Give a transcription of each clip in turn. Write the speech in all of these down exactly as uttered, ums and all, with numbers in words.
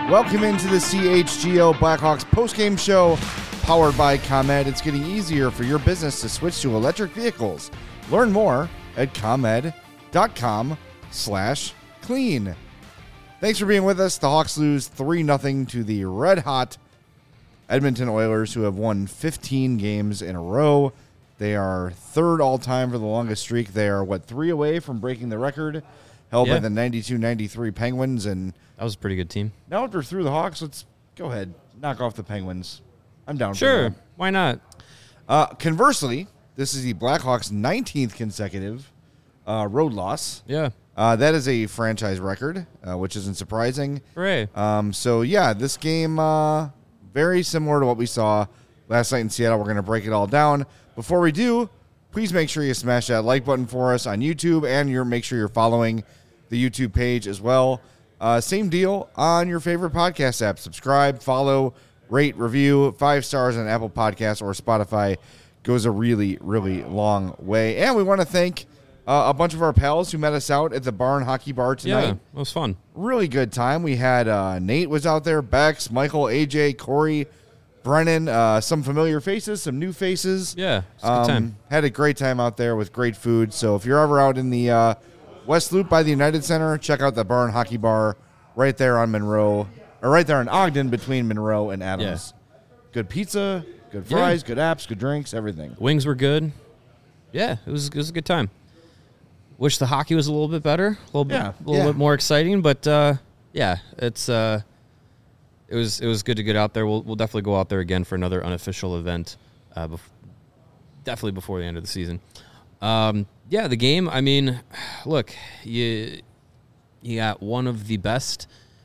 Welcome into the C H G O Blackhawks postgame show powered by ComEd. It's getting easier for your business to switch to electric vehicles. Learn more at ComEd.com slash clean. Thanks for being with us. The Hawks lose three nothing to the red-hot Edmonton Oilers, who have won fifteen games in a row. They are third all-time for the longest streak. They are, what, three away from breaking the record held yeah. by the ninety-two ninety-three Penguins. And that was a pretty good team. now after through the Hawks, let's go ahead, knock off the Penguins. I'm down sure. for that. Why not? Uh, conversely, this is the Blackhawks' nineteenth consecutive uh, road loss. Yeah. Uh, that is a franchise record, uh, which isn't surprising. Hooray. Um, so, yeah, this game, uh, very similar to what we saw last night in Seattle. We're going to break it all down. Before we do, please make sure you smash that like button for us on YouTube, and you're, make sure you're following the YouTube page as well. Uh, same deal on your favorite podcast app. Subscribe, follow, rate, review. Five stars on Apple Podcasts or Spotify goes a really, really long way. And we want to thank uh, a bunch of our pals who met us out at the Barn Hockey Bar tonight. Yeah, it was fun. Really good time. We had uh, Nate was out there, Bex, Michael, A J, Corey, Brennan, uh, some familiar faces, some new faces. Yeah, it's a good um, time. Had a great time out there with great food. So if you're ever out in the uh, West Loop by the United Center, check out the Barn Hockey Bar right there on Monroe, or right there in Ogden between Monroe and Adams. Yeah. Good pizza, good fries, Yeah. good apps, good drinks, everything. Wings were good. Yeah, it was it was a good time. Wish the hockey was a little bit better, a little bit, Yeah. a little Yeah. bit more exciting, but uh, yeah, it's uh, it was it was good to get out there. We'll we'll definitely go out there again for another unofficial event, uh, bef- definitely before the end of the season. Um, yeah, the game. I mean, look, you you got one of the best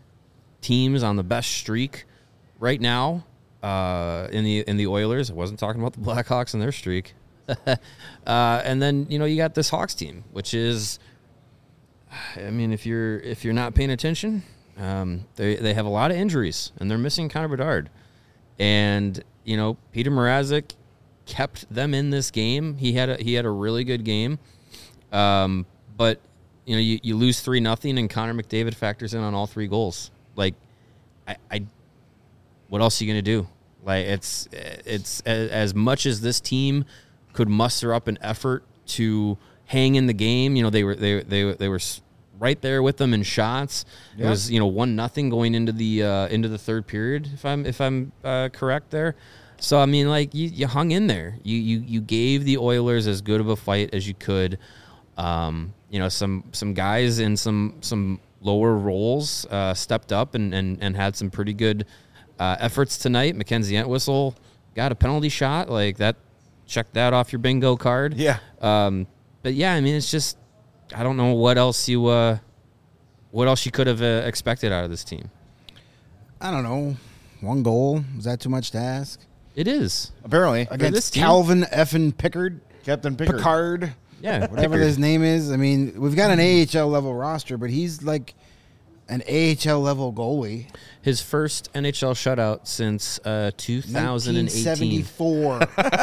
teams on the best streak right now uh, in the in the Oilers. I wasn't talking about the Blackhawks and their streak. uh, and then you know you got this Hawks team, which is, I mean, if you're if you're not paying attention, um, they they have a lot of injuries and they're missing Connor Bedard, and you know Peter Mrazek kept them in this game. He had a he had a really good game, um, but you know you, you lose three nothing and Connor McDavid factors in on all three goals. Like, I, I what else are you gonna do? Like it's it's as much as this team could muster up an effort to hang in the game. You know, they were they they they were right there with them in shots. Yeah. It was you know one nothing going into the uh, into the third period. If I'm if I'm uh, correct there. So I mean, like you, you hung in there. You you you gave the Oilers as good of a fight as you could. Um, you know, some some guys in some some lower roles uh, stepped up and, and and had some pretty good uh, efforts tonight. Mackenzie Entwistle got a penalty shot like that. Check that off your bingo card. Yeah. Um, but yeah, I mean, it's just I don't know what else you uh, what else you could have uh, expected out of this team. I don't know. One goal, is that too much to ask? It is Apparently. Against this team? Calvin effing Pickard, Captain Pickard. Picard, Yeah, whatever Pickard. his name is. I mean, we've got an A H L level roster, but he's like an A H L level goalie. His first N H L shutout since uh, two thousand eighteen. nineteen seventy-four.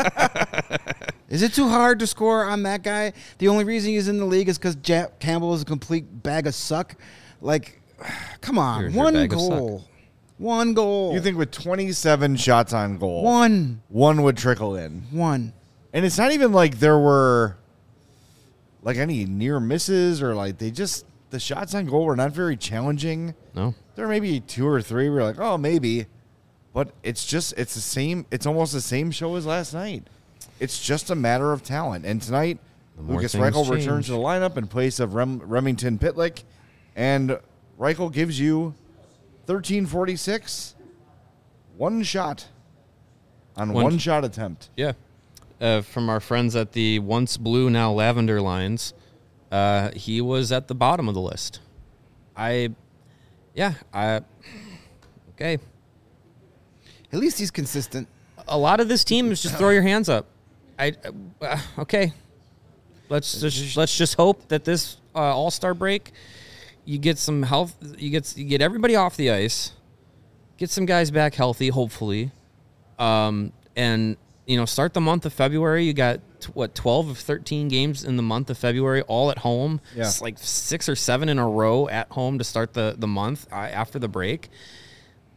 Is it too hard to score on that guy? The only reason he's in the league is because Jack Campbell is a complete bag of suck. Like, come on, Here's your one bag of goal, suck. one goal. You think with twenty-seven shots on goal, one, one would trickle in. one. And it's not even like there were like any near misses or like they just the shots on goal were not very challenging. No. There may be two or three where you're like, oh, maybe. But it's just it's the same it's almost the same show as last night. It's just a matter of talent. And tonight, more Lucas things Reichel change. returns to the lineup in place of Rem- Remington Pitlick. And Reichel gives you thirteen forty-six, one shot on One- one shot attempt. Yeah. Uh, from our friends at the once blue, now lavender lines, uh, he was at the bottom of the list. I, yeah, I, okay. At least he's consistent. A lot of this team is just throw your hands up. I, uh, okay. Let's just let's just hope that this uh, All-Star break, you get some health, you get you get everybody off the ice, get some guys back healthy, hopefully, um, and. You know, start the month of February. You got, t- what, twelve of thirteen games in the month of February, all at home. Yeah. It's like six or seven in a row at home to start the, the month uh, after the break.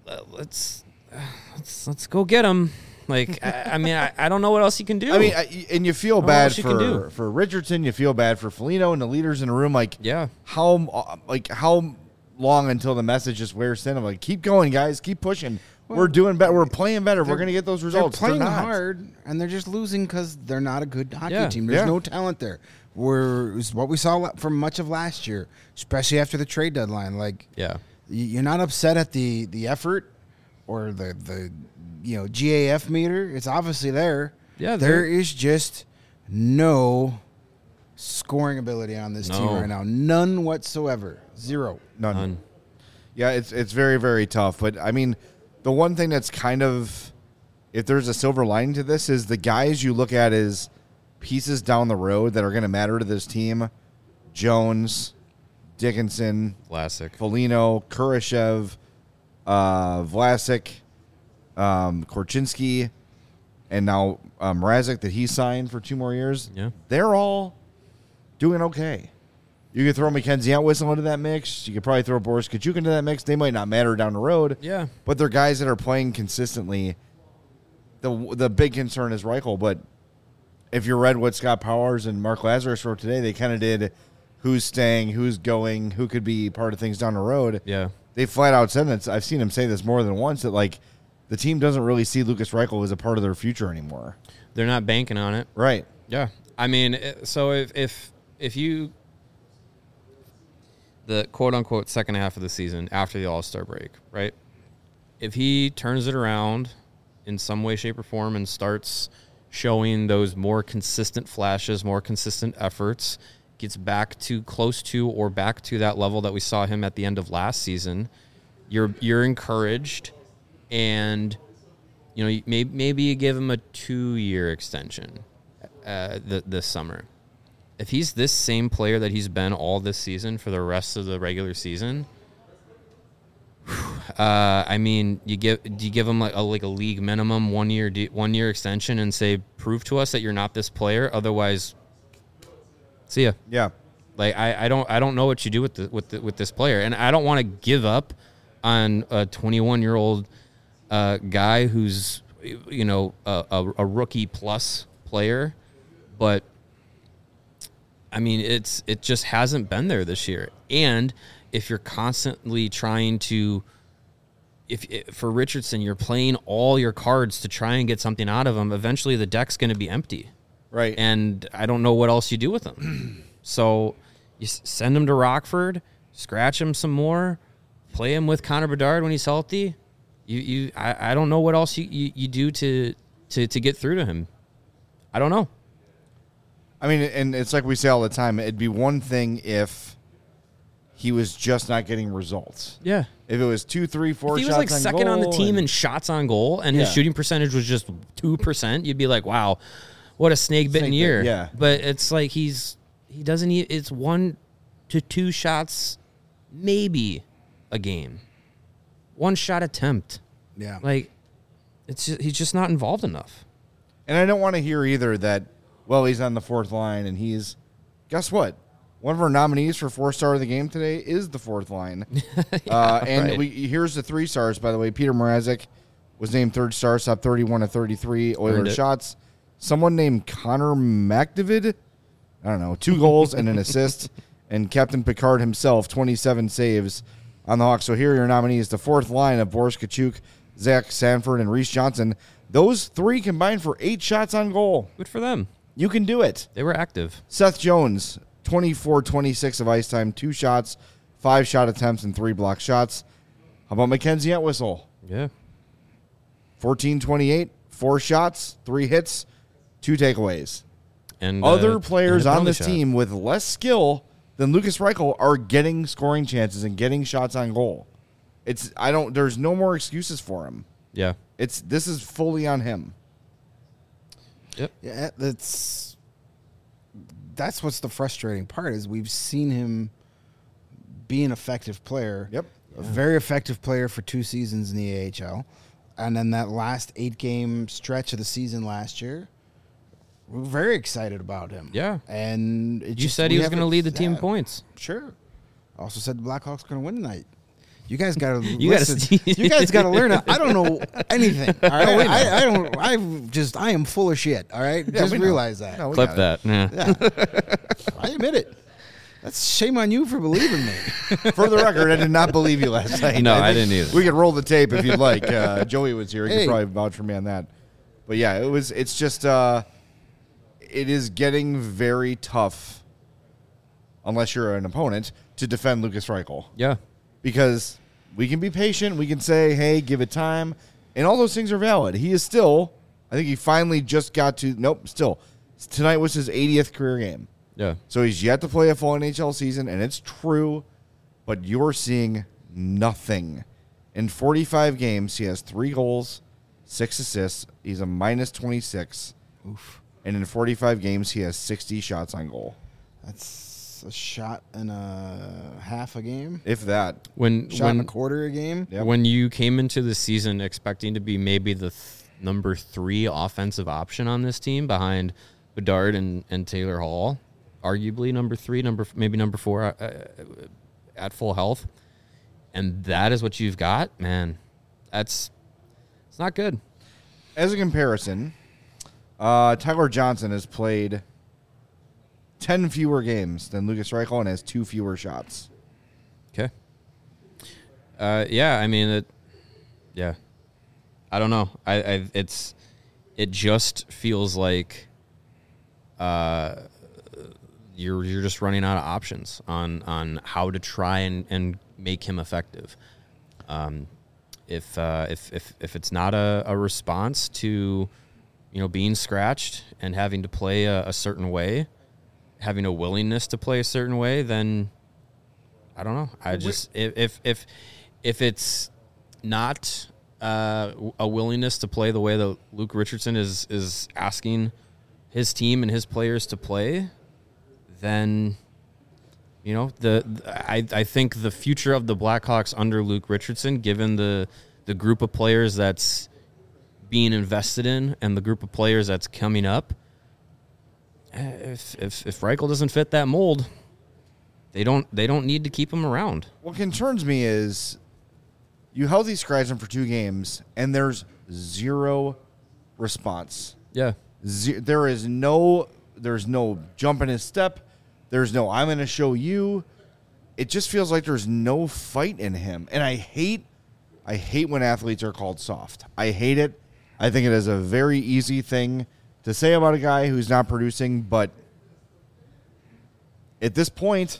uh, let's uh, let's let's go get him. Like, I, I mean, I, I don't know what else you can do. I mean, I, and you feel know bad what you can for do. for Richardson. You feel bad for Foligno and the leaders in the room. Like, yeah, how like how long until the message just wears thin? I'm like, keep going, guys, keep pushing. Well, we're doing better. We're playing better. We're going to get those results. They're playing They're not. hard, and they're just losing because they're not a good hockey Yeah. team. There's Yeah. no talent there. We're it was what we saw for much of last year, especially after the trade deadline. Like, yeah, y- you're not upset at the the effort or the the you know G A F meter. It's obviously there. Yeah, there they're- is just no scoring ability on this team No. right now. None whatsoever. Zero. None. None. Yeah, it's it's very very tough. But I mean, the one thing that's kind of, if there's a silver lining to this, is the guys you look at as pieces down the road that are going to matter to this team: Jones, Dickinson, Vlasic. Foligno, Kurashev, uh, Vlasic, um, Korchinski, and now um, Mrazek that he signed for two more years. Yeah. They're all doing okay. You could throw Mackenzie Outwhistle into that mix. You could probably throw Boris Kachuk into that mix. They might not matter down the road. Yeah. But they're guys that are playing consistently. The the big concern is Reichel, but if you read what Scott Powers and Mark Lazarus wrote today, they kind of did who's staying, who's going, who could be part of things down the road. Yeah. They flat out said that. I've seen him say this more than once, that like the team doesn't really see Lucas Reichel as a part of their future anymore. They're not banking on it. Right. Yeah. I mean, it- so if if if you the quote unquote second half of the season after the All-Star break, right? If he turns it around in some way, shape, or form and starts showing those more consistent flashes, more consistent efforts, gets back to close to or back to that level that we saw him at the end of last season, you're you're encouraged, and you know maybe maybe you give him a two-year extension uh, th- this summer. If he's this same player that he's been all this season for the rest of the regular season, uh, I mean, you give do you give him like a like a league minimum one year de- one year extension and say, prove to us that you're not this player, otherwise, see ya. Yeah. Like I, I don't I don't know what you do with the, with the, with this player, and I don't want to give up on a twenty-one year old uh, guy who's you know a, a, a rookie plus player, but I mean it's it just hasn't been there this year. And if you're constantly trying to, if, if for Richardson you're playing all your cards to try and get something out of him, eventually the deck's going to be empty. Right. And I don't know what else you do with him. So you s- send him to Rockford, scratch him some more, play him with Connor Bedard when he's healthy. You, you, I, I don't know what else you, you, you do to, to, to get through to him. I don't know. I mean, and it's like we say all the time, it'd be one thing if he was just not getting results. Yeah. If it was two, three, four If he shots was like on second on the goal team and- in shots on goal and his Yeah. shooting percentage was just two percent, you'd be like, wow, what a snake bitten Snake bit, year. yeah. But it's like he's, he doesn't, e- it's one to two shots, maybe a game. One shot attempt. Yeah. Like, it's just, he's just not involved enough. And I don't want to hear either that, well, he's on the fourth line and he's, guess what? One of our nominees for four star of the game today is the fourth line. uh, and right. we here's the three stars, by the way. Peter Mrazek was named third star, stopped thirty-one of thirty-three Earned Oilers it. shots. Someone named Connor McDavid, I don't know, two goals and an assist. And Captain Picard himself, twenty-seven saves on the Hawks. So here are your nominees. The fourth line of Boris Kachuk, Zach Sanford, and Reese Johnson. Those three combined for eight shots on goal. Good for them. You can do it. They were active. Seth Jones, twenty-four twenty-six of ice time, two shots, five shot attempts, and three block shots. How about Mackenzie Entwistle? Yeah. fourteen twenty-eight, four shots, three hits, two takeaways. And uh, Other and players a on penalty this shot. team with less skill than Lucas Reichel are getting scoring chances and getting shots on goal. It's I don't. There's no more excuses for him. Yeah. It's this is fully on him. Yep. Yeah, that's that's what's the frustrating part is we've seen him be an effective player. Yep. A very effective player for two seasons in the A H L. And then that last eight game stretch of the season last year, we're very excited about him. Yeah. And it You just- said we he was going to haven't- lead the team yeah, points. Sure. Also said the Blackhawks going to win tonight. You guys gotta You gotta listen. see- You guys gotta learn it. I don't know anything. All right, No, we know. I, I don't. I just I am full of shit. All right, Yeah, just we know. realize that. No, we Clip got it. that. Yeah. Yeah, I admit it. That's shame on you for believing me. For the record, I did not believe you last night. No, I think didn't either. We could roll the tape if you'd like. Uh, Joey was here; he Hey. could probably vouch for me on that. But yeah, it was. It's just. Uh, it is getting very tough, unless you're an opponent, to defend Lucas Reichel. Yeah. Because we can be patient. We can say, hey, give it time. And all those things are valid. He is still, I think he finally just got to, nope, still. Tonight was his eightieth career game. Yeah. So he's yet to play a full N H L season, and it's true, but you're seeing nothing. In forty-five games, he has three goals, six assists. He's a minus twenty-six. Oof. And in forty-five games, he has sixty shots on goal. That's a shot and a half a game. If that. When Shot when and a quarter a game. Yep. when you came into the season expecting to be maybe the th- number three offensive option on this team behind Bedard and, and Taylor Hall, arguably number three, number maybe number four uh, at full health, and that is what you've got, man. That's it's not good. As a comparison, uh, Tyler Johnson has played ten fewer games than Lucas Reichel and has two fewer shots. Okay. Uh, yeah, I mean it. Yeah, I don't know. I, I it's it just feels like uh, you're you're just running out of options on on how to try and, and make him effective. Um, if uh, if if if it's not a, a response to you know being scratched and having to play a, a certain way, having a willingness to play a certain way, then I don't know. I just if if if, if it's not uh, a willingness to play the way that Luke Richardson is is asking his team and his players to play, then you know the, the I I think the future of the Blackhawks under Luke Richardson, given the the group of players that's being invested in and the group of players that's coming up, if if if Reichel doesn't fit that mold, they don't they don't need to keep him around. What concerns me is you held these guys in for two games, and there's zero response. Yeah. Ze- there is no there's no jump in his step. There's no I'm going to show you. It just feels like there's no fight in him, and I hate I hate when athletes are called soft. I hate it. I think it is a very easy thing to say about a guy who's not producing, but at this point,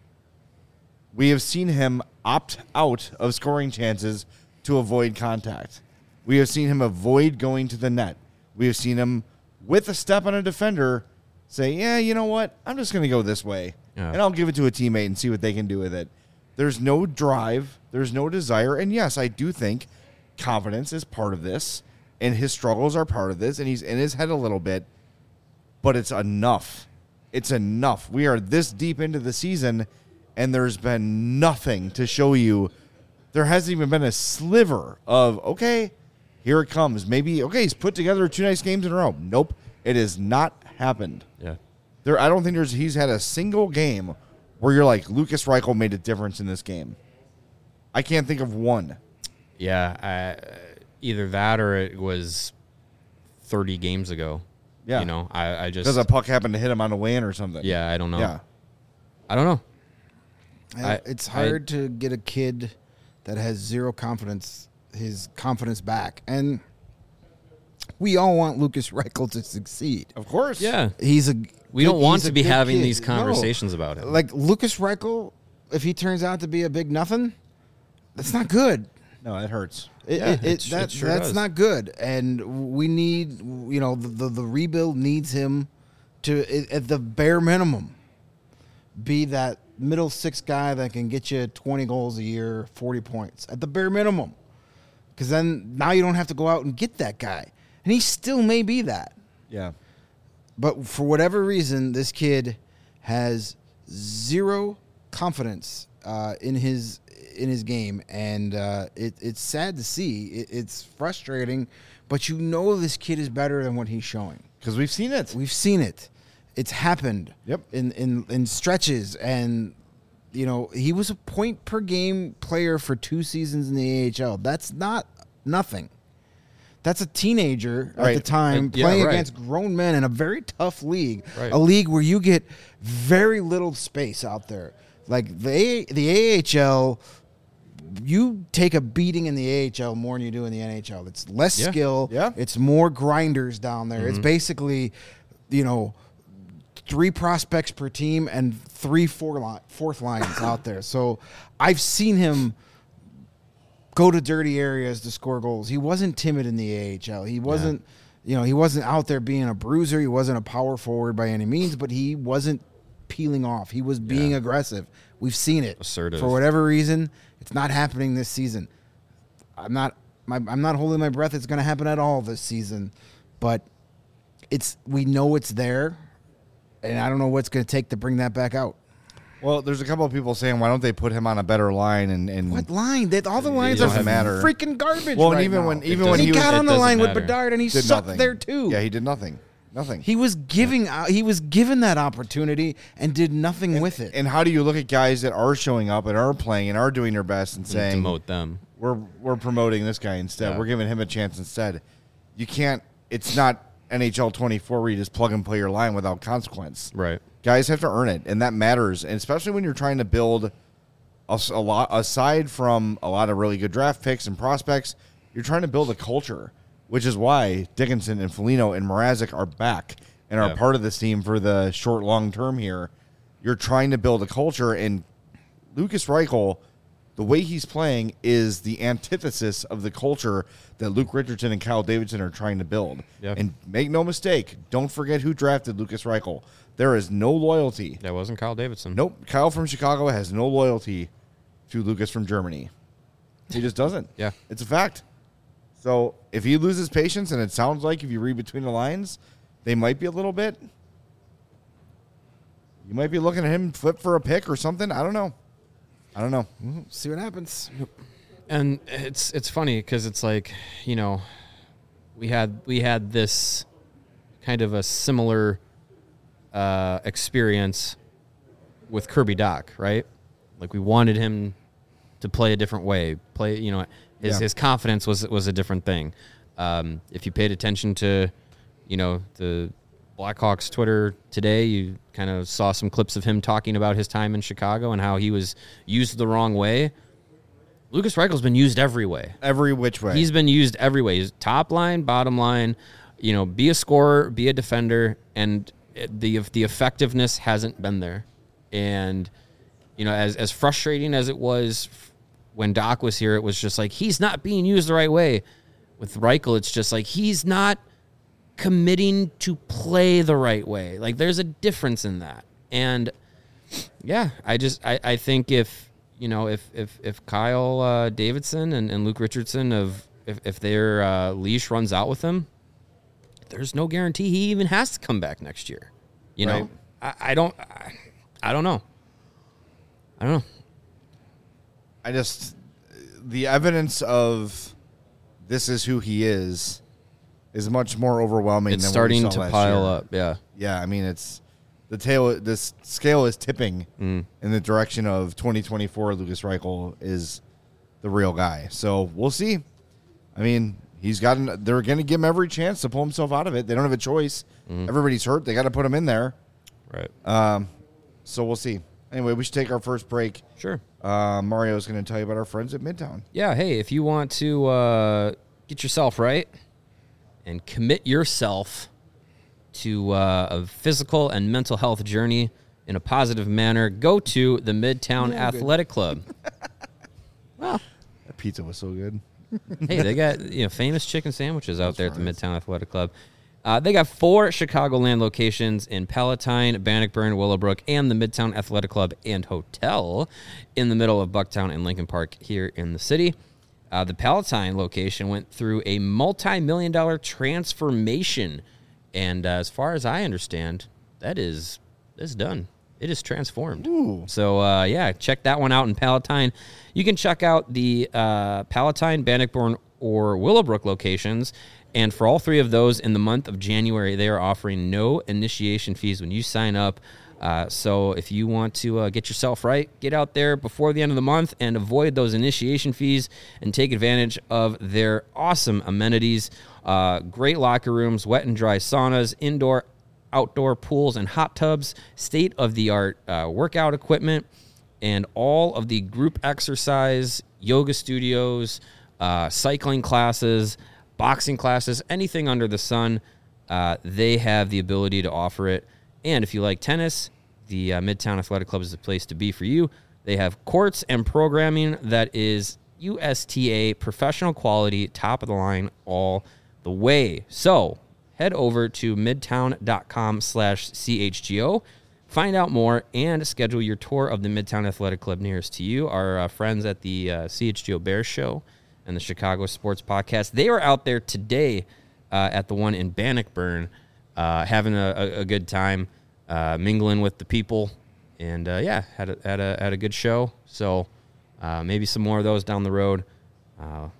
we have seen him opt out of scoring chances to avoid contact. We have seen him avoid going to the net. We have seen him, with a step on a defender, say, yeah, you know what? I'm just going to go this way, Yeah. and I'll give it to a teammate and see what they can do with it. There's no drive. There's no desire. And, yes, I do think confidence is part of this, and his struggles are part of this, and he's in his head a little bit, but it's enough. It's enough. We are this deep into the season, and there's been nothing to show you. There hasn't even been a sliver of, okay, here it comes. Maybe, okay, he's put together two nice games in a row. Nope. It has not happened. Yeah. There, I don't think there's he's had a single game where you're like, Lucas Reichel made a difference in this game. I can't think of one. Yeah, I, either that or it was thirty games ago. Yeah. You know, I, I just Because a puck happened to hit him on the way in or something. yeah, I don't know. Yeah. I don't know. I- I- it's I- hard to get a kid that has zero confidence, his confidence back. And we all want Lucas Reichel to succeed. Of course. Yeah. He's a We don't he's want a to be good having kid. these No. conversations about him. Like Lucas Reichel, if he turns out to be a big nothing, that's not good. No, it hurts. It, Yeah, it, it it, sh- that, it sure that's does. not good, and we need, you know, the, the the rebuild needs him to, at at the bare minimum, be that middle six guy that can get you twenty goals a year, forty points at the bare minimum, because then now you don't have to go out and get that guy, and he still may be that. Yeah. But for whatever reason, this kid has zero confidence uh, in his in his game, and uh, it, it's sad to see. It, it's frustrating, but you know this kid is better than what he's showing. Because we've seen it. We've seen it. It's happened. Yep. In in in stretches, and you know, he was a point per game player for two seasons in the A H L. That's not nothing. That's a teenager at Right. the time Uh, yeah, playing right. against grown men in a very tough league, Right. a league where you get very little space out there. Like the A- the A H L, you take a beating in the A H L more than you do in the N H L. It's less Yeah. skill. Yeah. It's more grinders down there. Mm-hmm. It's basically, you know, three prospects per team and three four li- fourth lines out there. So I've seen him go to dirty areas to score goals. He wasn't timid in the A H L. He wasn't, you know, he wasn't out there being a bruiser. He wasn't a power forward by any means, but he wasn't peeling off. He was being Yeah. aggressive. We've seen it. Assertive. For whatever reason, it's not happening this season. I'm not my, I'm not holding my breath it's going to happen at all this season, but it's we know it's there, and I don't know what's going to take to bring that back out. Well, there's a couple of people saying, why don't they put him on a better line? And, and What line? That all the It lines are doesn't matter. freaking garbage. Well, and right even now. when even It when he, he was got on it the doesn't line with matter. Bedard and he did sucked nothing. there too. Yeah, he did nothing. Nothing. He was giving out, he was given that opportunity and did nothing with it. And how do you look at guys that are showing up and are playing and are doing their best and saying, Demote them. we're we're promoting this guy instead. Yeah. We're giving him a chance instead. You can't. It's not N H L twenty-four where you just plug and play your line without consequence. Right. Guys have to earn it, and that matters. And especially when you're trying to build a, s- a lot aside from a lot of really good draft picks and prospects. You're trying to build a culture, which is why Dickinson and Foligno and Mrazek are back and are Yeah. part of this team for the short long term here. You're trying to build a culture, and Lucas Reichel, the way he's playing is the antithesis of the culture that Luke Richardson and Kyle Davidson are trying to build. Yeah. And make no mistake, don't forget who drafted Lucas Reichel. There is no loyalty. That wasn't Kyle Davidson. Nope. Kyle from Chicago has no loyalty to Lucas from Germany. He just doesn't. Yeah. It's a fact. So if he loses patience, and it sounds like if you read between the lines, they might be a little bit. You might be looking at him flip for a pick or something. I don't know. I don't know. See what happens. And it's it's funny because it's like, you know, we had we had this kind of a similar uh, experience with Kirby Doc, right? Like we wanted him to play a different way, play, you know, his Yeah. his confidence was was a different thing. Um, if you paid attention to, you know, the Blackhawks Twitter today, you kind of saw some clips of him talking about his time in Chicago and how he was used the wrong way. Lucas Reichel's been used every way. Every which way. He's been used every way. He's top line, bottom line. You know, be a scorer, be a defender, and it- the the effectiveness hasn't been there. And you know, as as frustrating as it was f- when Doc was here, it was just like he's not being used the right way. With Reichel, it's just like he's not committing to play the right way. Like there's a difference in that. And yeah, I just I, I think if you know if if if Kyle uh, Davidson and, and Luke Richardson of if, if their uh, leash runs out with him, there's no guarantee he even has to come back next year. You Right. know, I, I don't I, I don't know. I don't know. I just the evidence of this is who he is is much more overwhelming. It's than starting what we saw to last pile year. up. Yeah. Yeah, I mean it's the tail. This scale is tipping Mm. in the direction of twenty twenty-four. Lucas Reichel is the real guy. So we'll see. I mean, he's gotten. They're going to give him every chance to pull himself out of it. They don't have a choice. Mm. Everybody's hurt. They got to put him in there. Right. Um, so we'll see. Anyway, we should take our first break. Sure. Uh, Mario's going to tell you about our friends at Midtown. Yeah, hey, if you want to uh, get yourself right and commit yourself to uh, a physical and mental health journey in a positive manner, go to the Midtown Yeah, good. Athletic Club. That pizza was so good. Hey, they got you know famous chicken sandwiches out there at the right. Midtown Athletic Club. Uh, they got four Chicagoland locations in Palatine, Bannockburn, Willowbrook, and the Midtown Athletic Club and Hotel in the middle of Bucktown and Lincoln Park here in the city. Uh, the Palatine location went through a multi-million dollar transformation, and uh, as far as I understand, that is is done. It is transformed. Ooh. So, uh, yeah, check that one out in Palatine. You can check out the uh, Palatine, Bannockburn, or Willowbrook locations. And for all three of those in the month of January, they are offering no initiation fees when you sign up. Uh, so if you want to uh, get yourself right, get out there before the end of the month and avoid those initiation fees and take advantage of their awesome amenities. Uh, great locker rooms, wet and dry saunas, indoor, outdoor pools and hot tubs, state-of-the-art uh, workout equipment, and all of the group exercise, yoga studios, uh, cycling classes, boxing classes, anything under the sun, uh, they have the ability to offer it. And if you like tennis, the uh, Midtown Athletic Club is the place to be for you. They have courts and programming that is U S T A professional quality, top of the line all the way. So head over to midtown.com slash CHGO. Find out more and schedule your tour of the Midtown Athletic Club nearest to you. Our uh, friends at the uh, C H G O Bears Show and the Chicago Sports Podcast, they were out there today uh, at the one in Bannockburn, uh, having a, a, a good time, uh, mingling with the people, and uh, yeah, had a, had a had a good show. So uh, maybe some more of those down the road. Uh,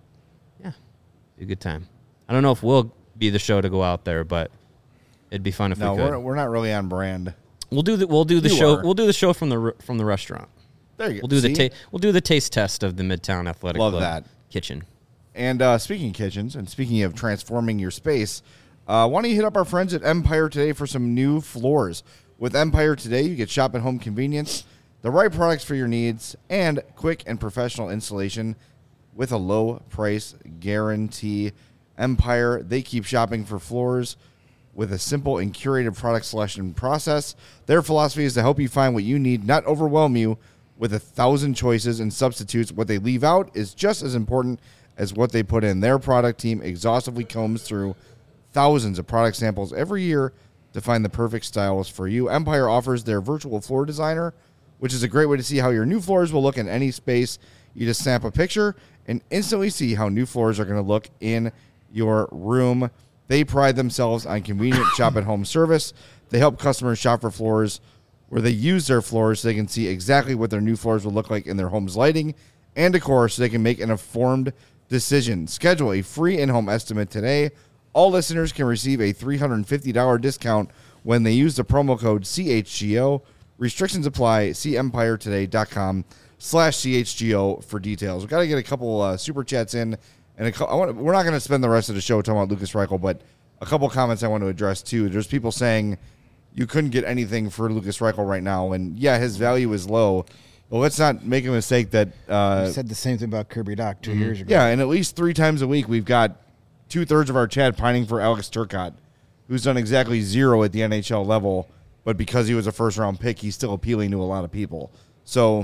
yeah, be a good time. I don't know if we'll be the show to go out there, but it'd be fun if No, we could. we're we're not really on brand. We'll do the we'll do the You show. are. We'll do the show from the re- from the restaurant. There you go. We'll do the See? ta- we'll do the taste test of the Midtown Athletic Love Club that. kitchen. And uh, speaking of kitchens, and speaking of transforming your space, uh, why don't you hit up our friends at Empire today for some new floors? With Empire today, you get shop at home convenience, the right products for your needs, and quick and professional installation with a low price guarantee. Empire, they keep shopping for floors with a simple and curated product selection process. Their philosophy is to help you find what you need, not overwhelm you with a thousand choices and substitutes. What they leave out is just as important as what they put in. Their product team exhaustively combs through thousands of product samples every year to find the perfect styles for you. Empire offers their virtual floor designer, which is a great way to see how your new floors will look in any space. You just snap a picture and instantly see how new floors are going to look in your room. They pride themselves on convenient shop-at-home service. They help customers shop for floors where they use their floors so they can see exactly what their new floors will look like in their home's lighting and decor so they can make an informed decision. Schedule a free in-home estimate today. All listeners can receive a three hundred fifty dollars discount when they use the promo code C H G O. Restrictions apply. See empiretoday.com slash CHGO for details. We've got to get a couple uh, super chats in. And a, I want, we're not going to spend the rest of the show talking about Lucas Reichel, but a couple comments I want to address, too. There's people saying you couldn't get anything for Lucas Reichel right now. And, yeah, his value is low. But let's not make a mistake that uh, You said the same thing about Kirby Doc two years ago. yeah, and at least three times a week, we've got two-thirds of our chat pining for Alex Turcotte, who's done exactly zero at the N H L level, but because he was a first-round pick, he's still appealing to a lot of people. So,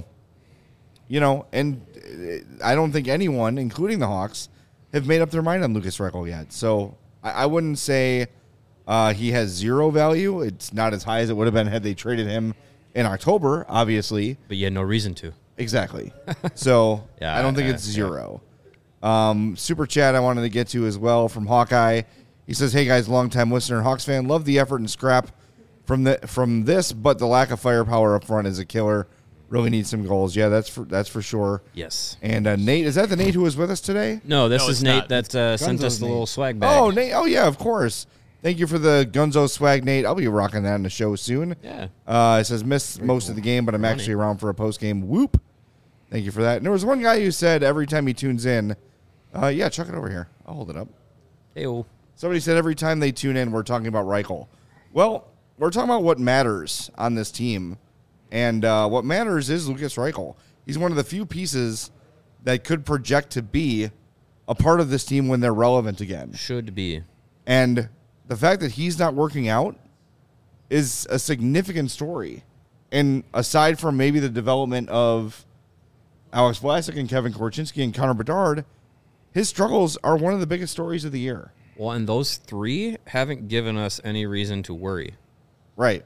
you know, and I don't think anyone, including the Hawks, have made up their mind on Lucas Reichel yet. So I, I wouldn't say uh, he has zero value. It's not as high as it would have been had they traded him in October, obviously. But you had no reason to. Exactly. So Yeah, I don't think uh, it's zero. Um, super chat I wanted to get to as well from Hawkeye. He says, "Hey guys, longtime listener and Hawks fan. Love the effort and scrap from the from this, but the lack of firepower up front is a killer. Really need some goals. Yeah, that's for that's for sure. Yes. And uh, Nate, is that the Nate who was with us today? No, this No, is it's Nate not. that uh, sent us Gunzo's the Nate. little swag bag. Oh, Nate. Oh, yeah, of course. Thank you for the Gunzo swag, Nate. I'll be rocking that in the show soon. Yeah. Uh, it says, missed most of the game, but I'm actually around for a post-game whoop. Thank you for that. And there was one guy who said every time he tunes in, uh, yeah, chuck it over here. I'll hold it up. Hey-o. Somebody said every time they tune in, we're talking about Reichel. Well, we're talking about what matters on this team. And uh, what matters is Lucas Reichel. He's one of the few pieces that could project to be a part of this team when they're relevant again. Should be. And the fact that he's not working out is a significant story. And aside from maybe the development of Alex Vlasic and Kevin Korchinski and Connor Bedard, his struggles are one of the biggest stories of the year. Well, and those three haven't given us any reason to worry. Right.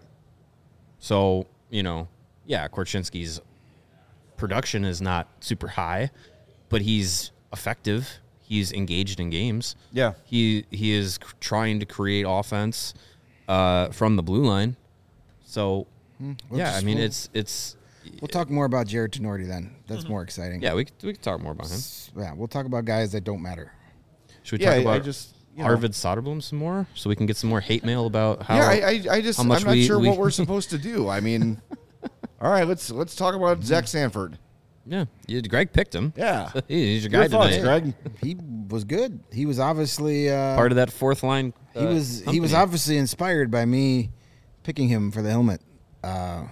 So, you know, yeah, Korchinski's production is not super high, but he's effective. He's engaged in games. Yeah. He he is c- trying to create offense uh, from the blue line. So, We'll yeah, just- I mean, we'll- it's it's We'll talk more about Jared Tenorti then. That's more exciting. Yeah, we could, we could talk more about him. Yeah, we'll talk about guys that don't matter. Should we Yeah, talk I- about I just, you know. Arvid Soderblom some more so we can get some more hate mail about how? yeah, I, I, I just how I'm much not we- sure we- what we're supposed to do. I mean, all right, let's let's talk about Zach Sanford. yeah, you, Greg picked him. Yeah, He's your guy your thoughts, tonight. Greg. He was good. He was obviously uh, Part of that fourth line. He uh, was he was company. obviously inspired by me picking him for the helmet. Uh,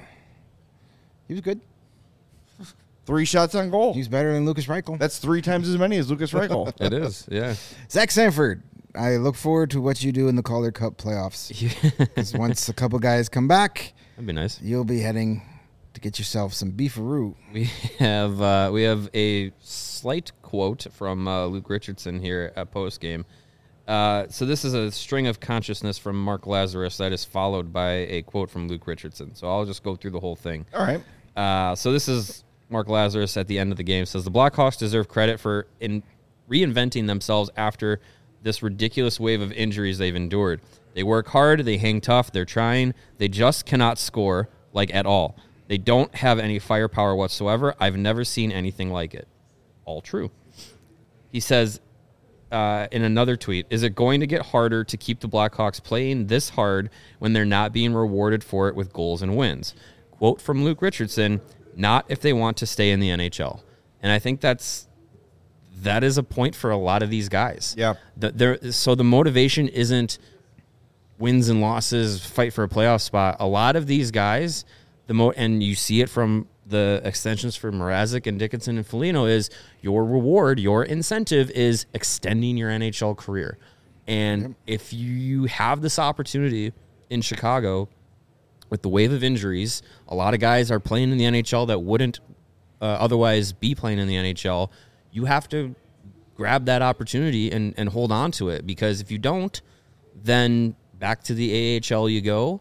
he was good. Three shots on goal. He's better than Lucas Reichel. That's three times as many as Lucas Reichel. It is. Yeah. Zach Sanford. I look forward to what you do in the Calder Cup playoffs. Yeah. 'Cause once a couple guys come back, That'd be nice. you'll be heading to get yourself some beefaroo. We have uh, we have a slight quote from uh, Luke Richardson here at post game. Uh, so this is a string of consciousness from Mark Lazarus that is followed by a quote from Luke Richardson. So I'll just go through the whole thing. All right. Uh, so this is Mark Lazarus at the end of the game says the Blackhawks deserve credit for in reinventing themselves after this ridiculous wave of injuries they've endured. They work hard, they hang tough, they're trying, they just cannot score like at all. They don't have any firepower whatsoever. I've never seen anything like it. All true. He says uh, in another tweet, is it going to get harder to keep the Blackhawks playing this hard when they're not being rewarded for it with goals and wins? Quote from Luke Richardson, not if they want to stay in the N H L. And I think that's that is a point for a lot of these guys. Yeah. The, there, so the motivation isn't wins and losses, fight for a playoff spot. A lot of these guys, the mo and you see it from the extensions for Mrazek and Dickinson and Foligno, is your reward, your incentive is extending your N H L career. And yep. if you have this opportunity in Chicago with the wave of injuries, a lot of guys are playing in the N H L that wouldn't uh, otherwise be playing in the N H L. You have to grab that opportunity and, and hold on to it, because if you don't, then back to the A H L you go,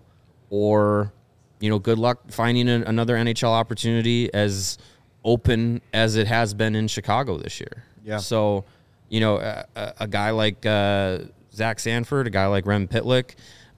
or, you know, good luck finding a, another N H L opportunity as open as it has been in Chicago this year. Yeah. So, you know, a, a, a guy like uh, Zach Sanford, a guy like Rem Pitlick,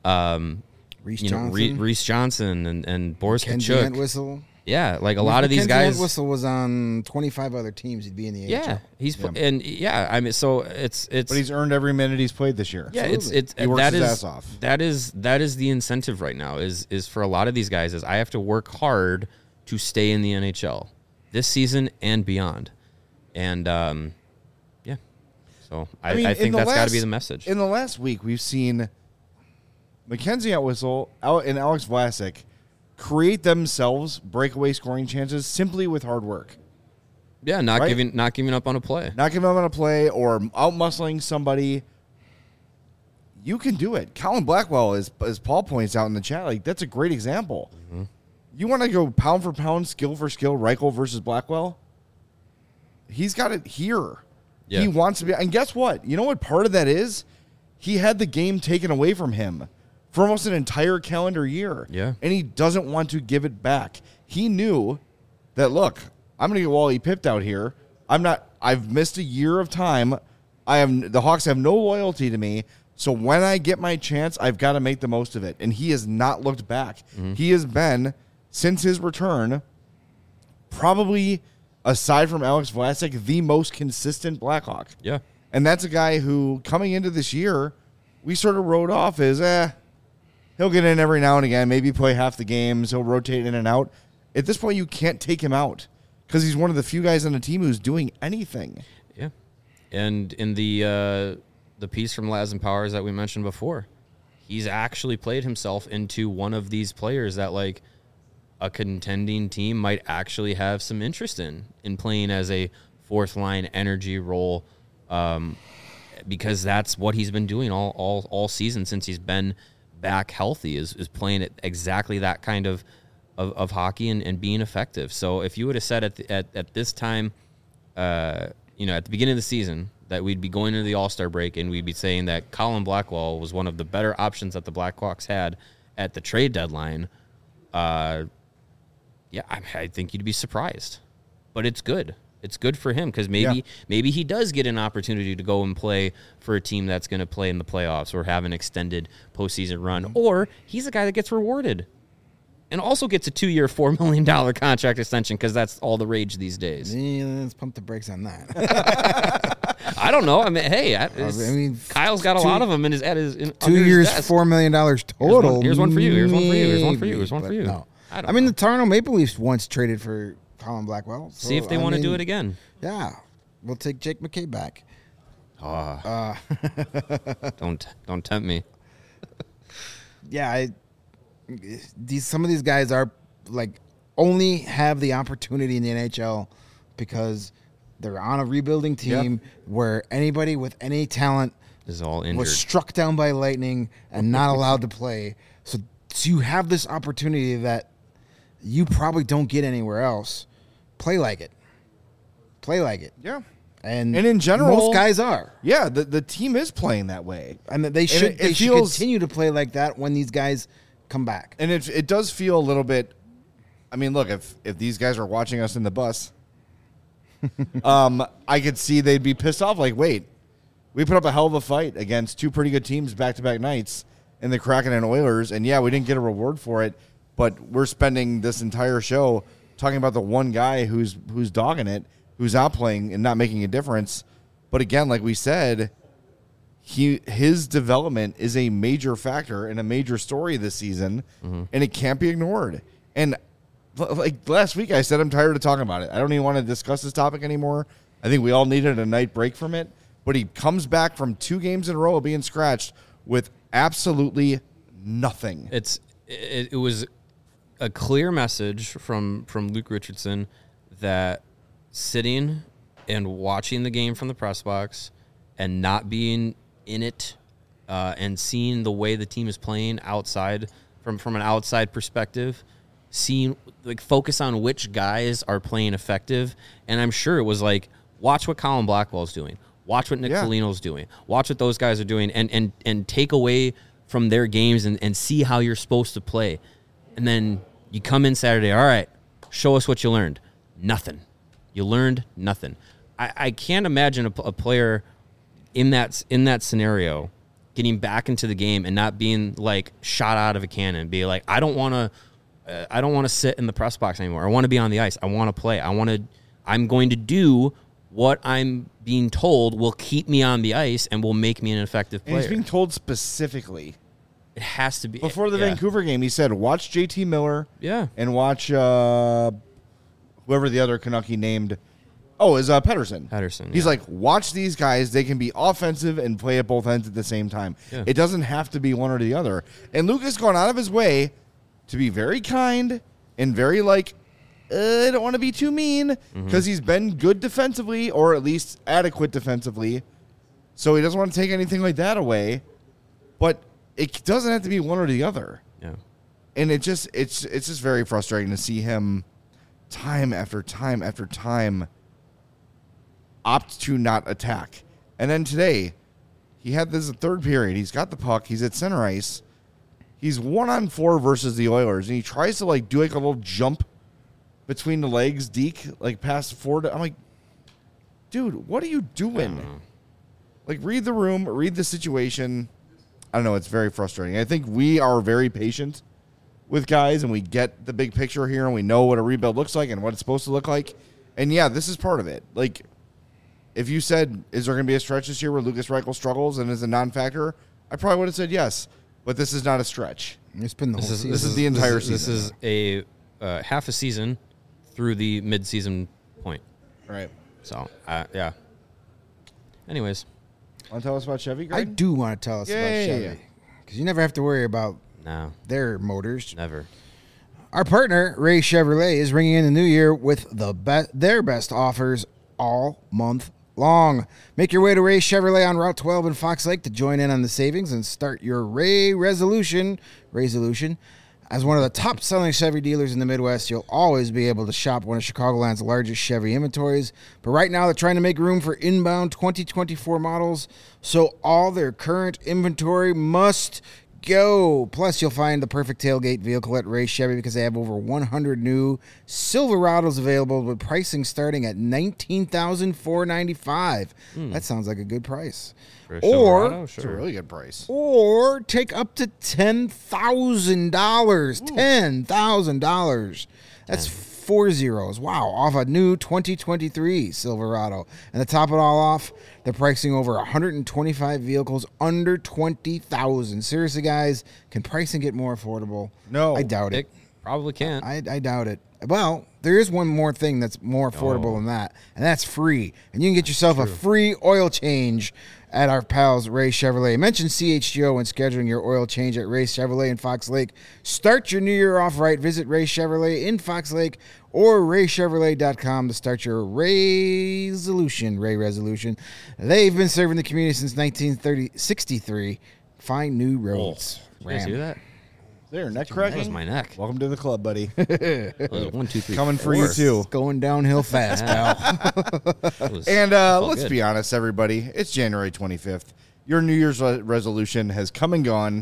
um, Reese you know, Johnson, Re- Reese Johnson, and, and Boris Kenzie Tkachuk. Entwistle. Yeah, like a lot of these guys. Whistle was on twenty-five other teams. He'd be in the A H L. Yeah, he's Yeah. and yeah, I mean, so it's it's. But he's earned every minute he's played this year. yeah, it's it's He works that his is ass off. that is that is the incentive right now. Is is for a lot of these guys is I have to work hard to stay in the N H L this season and beyond, and um, yeah. So I, I, mean, in think the that's got to last- be the message. In the last week, we've seen Mackenzie Entwistle Al- and Alex Vlasic create themselves breakaway scoring chances simply with hard work. yeah, not right? giving not giving up on a play. Not giving them on a play or out muscling somebody. You can do it. Colin Blackwell, as, as Paul points out in the chat, like that's a great example. Mm-hmm. You want to go pound for pound, skill for skill, Reichel versus Blackwell? He's got it here. Yeah. He wants to be. And guess what? You know what part of that is? He had the game taken away from him for almost an entire calendar year. Yeah. And he doesn't want to give it back. He knew that, look, I'm going to get Wally pipped out here. I'm not, I've missed a year of time. I have, the Hawks have no loyalty to me. So when I get my chance, I've got to make the most of it. And he has not looked back. Mm-hmm. He has been, since his return, probably, aside from Alex Vlasic, the most consistent Blackhawk. Yeah. And that's a guy who, coming into this year, we sort of wrote off as, eh, he'll get in every now and again, maybe play half the games, he'll rotate in and out. At this point, you can't take him out because he's one of the few guys on the team who's doing anything. Yeah, and in the uh, the piece from Laz and Powers that we mentioned before, he's actually played himself into one of these players that like a contending team might actually have some interest in in playing as a fourth line energy role, um, because that's what he's been doing all all all season since he's been back healthy, is is playing at exactly that kind of. Of, of hockey and, and being effective. So if you would have said at, the, at at this time, uh, you know, at the beginning of the season, that we'd be going into the All-Star break and we'd be saying that Colin Blackwell was one of the better options that the Blackhawks had at the trade deadline, uh, yeah, I, I think you'd be surprised. But it's good. It's good for him because maybe Yeah. maybe he does get an opportunity to go and play for a team that's going to play in the playoffs or have an extended postseason run, or he's a guy that gets rewarded. and also gets a two-year, four million dollars contract extension because that's all the rage these days. Yeah, let's pump the brakes on that. I don't know. I mean, hey, I, I mean, Kyle's got a two- lot of them in his at his in, Two under his years, desk. four million dollars total. Here's one, here's one for you. Here's one for you. Here's one for you. Here's one for maybe, you. Here's one for but you. No. I, don't I mean, know. the Toronto Maple Leafs once traded for Colin Blackwell. So, See if they I want to do mean, it again. Yeah, we'll take Jake McKay back. Ah, Uh, don't don't tempt me. yeah, I, these some of these guys are like only have the opportunity in the N H L because they're on a rebuilding team Yep. where anybody with any talent This is all injured. was struck down by lightning and not allowed to play. So, so you have this opportunity that you probably don't get anywhere else. Play like it. Play like it. Yeah. And, And in general- most guys are. Yeah, the, the team is playing that way. And they should it- they it should feels- continue to play like that when these guys come back. And it, it does feel a little bit. I mean, look, if, if these guys are watching us in the bus, um, I could see they'd be pissed off. Like, wait, we put up a hell of a fight against two pretty good teams back to back nights in the Kraken and Oilers. And yeah, we didn't get a reward for it, but we're spending this entire show talking about the one guy who's who's dogging it, who's out playing and not making a difference. But again, like we said, he his development is a major factor and a major story this season, and it can't be ignored. And l- like last week, I said I'm tired of talking about it. I don't even want to discuss this topic anymore. I think we all needed a night break from it. But he comes back from two games in a row of being scratched with absolutely nothing. It's it, it was a clear message from from Luke Richardson that sitting and watching the game from the press box and not being in it uh, and seeing the way the team is playing outside from from an outside perspective, seeing like focus on which guys are playing effective. And I'm sure it was like, watch what Colin Blackwell's doing. Watch what Nick Yeah. Foligno's doing. Watch what those guys are doing, and and and take away from their games and, and see how you're supposed to play. And then you come in Saturday, all right, show us what you learned. Nothing. You learned nothing. I, I can't imagine a, a player in that in that scenario getting back into the game and not being like shot out of a cannon. Be like, I don't want to. Uh, I don't want to sit in the press box anymore. I want to be on the ice. I want to play. I want to. I'm going to do what I'm being told will keep me on the ice and will make me an effective And player. he's being told specifically. It has to be Before the yeah. Vancouver game, he said, watch J T Miller Yeah. and watch uh, whoever the other Canuck named. Oh, is uh, Pedersen. Pedersen, He's yeah. like, watch these guys. They can be offensive and play at both ends at the same time. Yeah. It doesn't have to be one or the other. And Lucas gone out of his way to be very kind and very like, uh, I don't want to be too mean because he's been good defensively or at least adequate defensively. So he doesn't want to take anything like that away. But it doesn't have to be one or the other. Yeah. And it just it's it's just very frustrating to see him time after time after time opt to not attack. And then today, he had this third period. He's got the puck. He's at center ice. He's one on four versus the Oilers, and he tries to like do like a little jump between the legs, Deke, like past four. To, I'm like, dude, what are you doing? Like, read the room, read the situation. I don't know. It's very frustrating. I think we are very patient with guys, and we get the big picture here, and we know what a rebuild looks like and what it's supposed to look like. And yeah, this is part of it. Like, if you said, is there going to be a stretch this year where Lucas Reichel struggles and is a non-factor, I probably would have said yes. But this is not a stretch. It's been the This whole is season. this is the entire this is, season. This is a uh, half a season through the mid-season point. Right. So uh, yeah. Anyways, Want to tell us about Chevy, I Greg? do want to tell us Yeah, about yeah, Chevy yeah. because you never have to worry about no, their motors. never. Our partner, Ray Chevrolet, is ringing in the new year with the be- their best offers all month long. Make your way to Ray Chevrolet on Route twelve in Fox Lake to join in on the savings and start your Ray resolution. Resolution. As one of the top-selling Chevy dealers in the Midwest, you'll always be able to shop one of Chicagoland's largest Chevy inventories. But right now, they're trying to make room for inbound twenty twenty-four models, so all their current inventory must go. Plus, you'll find the perfect tailgate vehicle at Ray Chevy because they have over one hundred new Silverados available with pricing starting at nineteen thousand four hundred ninety-five dollars. That sounds like a good price. For a Or Silverado, It's a sure. really good price. or take up to ten thousand dollars. ten thousand dollars. That's four zeros. Wow, off a new twenty twenty-three Silverado. And to top it all off, they're pricing over one hundred twenty-five vehicles under twenty thousand dollars. Seriously, guys, can pricing get more affordable? No. I doubt it. It probably can't. I, I doubt it. Well, there is one more thing that's more affordable Oh. than that, and that's free. And you can get yourself a free oil change at our pals Ray Chevrolet. Mention C H G O when scheduling your oil change at Ray Chevrolet in Fox Lake. Start your new year off right. Visit Ray Chevrolet in Fox Lake or ray chevrolet dot com to start your resolution. Ray Resolution. They've been serving the community since nineteen sixty-three. Find new roads. You guys hear that? There, neck That cracking. was my neck. Welcome to the club, buddy. That was one, two, three, Coming for four. you too. It's going downhill fast, pal. That was- And uh, felt let's good. be honest, everybody. It's January twenty-fifth. Your New Year's re- resolution has come and gone.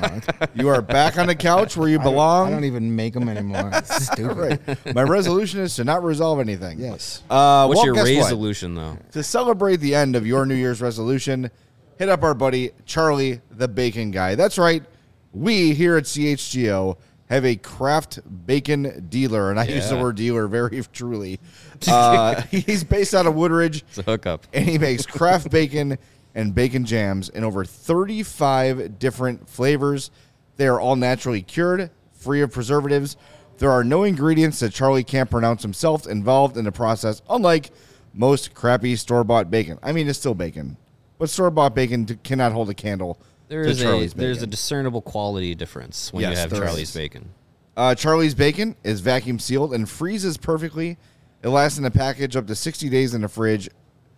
You are back on the couch where you belong. I don't even make them anymore. It's stupid. Right. My resolution is to not resolve anything. Yes. Uh, What's well, your guess what? resolution, though? To celebrate the end of your New Year's resolution, hit up our buddy Charlie the Bacon Guy. That's right. We here at C H G O have a craft bacon dealer, and I use the Yeah. word dealer very truly. Uh, he's based out of Woodridge, It's a hookup. and he makes craft bacon and bacon jams in over thirty-five different flavors. They are all naturally cured, free of preservatives. There are no ingredients that Charlie can't pronounce himself involved in the process, unlike most crappy store-bought bacon. I mean, it's still bacon, but store-bought bacon d- cannot hold a candle There to is a Charlie's there's a bacon. discernible quality difference when Yes, you have there Charlie's is. bacon. Uh, Charlie's bacon is vacuum sealed and freezes perfectly. It lasts in a package up to sixty days in the fridge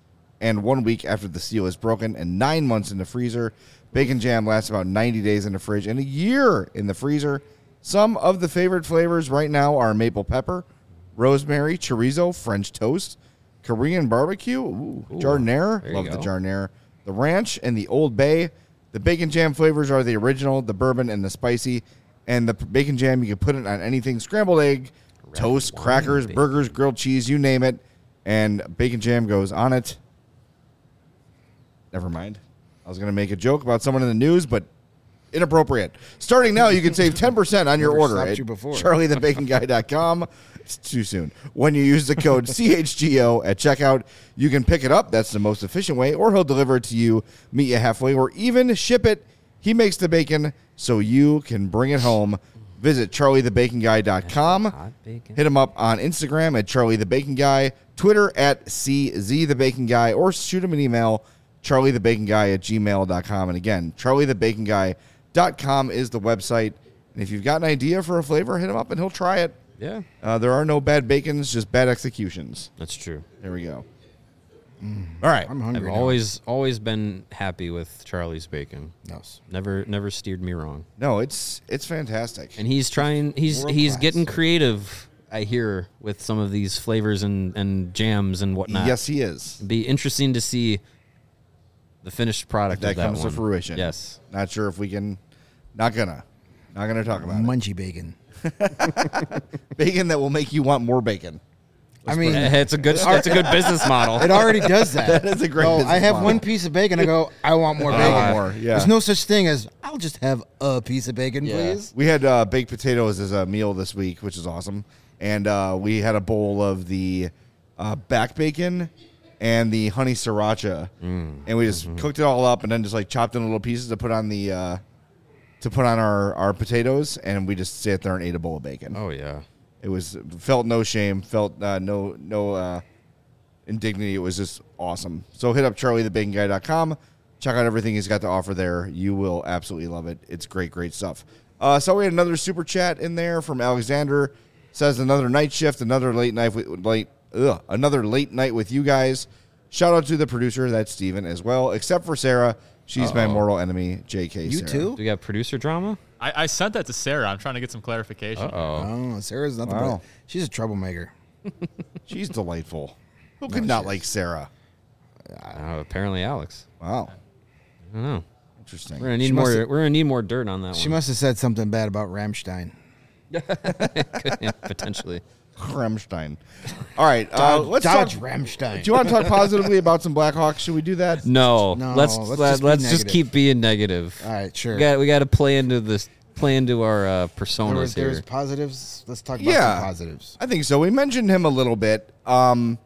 and one week after the seal is broken and nine months in the freezer. Bacon jam lasts about ninety days in the fridge and a year in the freezer. Some of the favorite flavors right now are maple pepper, rosemary, chorizo, French toast, Korean barbecue, ooh, Ooh, jardinere, there you love the go. jardinere, the ranch, and the Old Bay. The bacon jam flavors are the original, the bourbon, and the spicy. And the p- bacon jam, you can put it on anything, scrambled egg, toast, wine crackers, bacon. burgers, grilled cheese, you name it. And bacon jam goes on it. Never mind. I was going to make a joke about someone in the news, but inappropriate. Starting now, you can save ten percent on your Never order stopped at you before. charlie the bacon guy dot com. It's too soon. When you use the code C H G O at checkout, you can pick it up. That's the most efficient way, or he'll deliver it to you, meet you halfway, or even ship it. He makes the bacon so you can bring it home. Visit charlie the bacon guy dot com. Hot bacon. Hit him up on Instagram at Charlie the Bacon Guy, Twitter at C Z the Bacon Guy, or shoot him an email, charlie the bacon guy at gmail dot com. And again, charlie the bacon guy dot com is the website. And if you've got an idea for a flavor, hit him up and he'll try it. Yeah, Uh, there are no bad bacons, just bad executions. that's true. There we go. All right. I'm hungry I've now. always always been happy with Charlie's bacon. Yes. Never never steered me wrong. No, it's it's fantastic. And he's trying. He's World he's class. getting creative. I hear with some of these flavors and, and jams and whatnot. Yes, he is. It'd be interesting to see the finished product That of that comes to one. fruition. Yes. Not sure if we can. Not gonna. Not gonna talk about it. Munchy bacon. Bacon that will make you want more bacon. I mean, It's a good. That's a good business model. it already does that. That is a great So business I have model. one piece of bacon. I go, I want more I bacon. want more, yeah. There's no such thing as I'll just have a piece of bacon, Yeah. please. We had uh, baked potatoes as a meal this week, which is awesome. And uh, we had a bowl of the uh, back bacon and the honey sriracha, Mm. and we just Mm-hmm. cooked it all up and then just like chopped in little pieces to put on the uh, to put on our, our potatoes, and we just sat there and ate a bowl of bacon. Oh yeah. It was felt no shame, felt uh, no no uh, indignity. It was just awesome. So hit up charlie the bacon guy dot com. Check out everything he's got to offer there. You will absolutely love it. It's great, great stuff. Uh, so we had another super chat in there from Alexander. Says another night shift, another late night with late, ugh, another late night with you guys. Shout out to the producer, that's Steven, as well. Except for Sarah, she's my Uh-oh. mortal enemy, J K. You Sarah. too? Do we got producer drama? I, I sent that to Sarah. I'm trying to get some clarification. Uh oh. Oh, Sarah's nothing Wow. but she's a troublemaker. She's delightful. Who could not like Sarah? Uh, apparently Alex. Wow. I don't know. Interesting. We're gonna need She more. must've- We're gonna need more dirt on that She one. must have said something bad about Rammstein. Yeah, potentially. Rammstein. All right. Uh, Dodge, let's Dodge talk. Rammstein. Do you want to talk positively about some Blackhawks? Should we do that? No, No, let's let's let, just be let's just negative. keep being negative. All right, sure. We got we got to play into this, play into our uh, personas there was, here. there's positives. Let's talk about Yeah. some positives. I think so. We mentioned him a little bit. Um,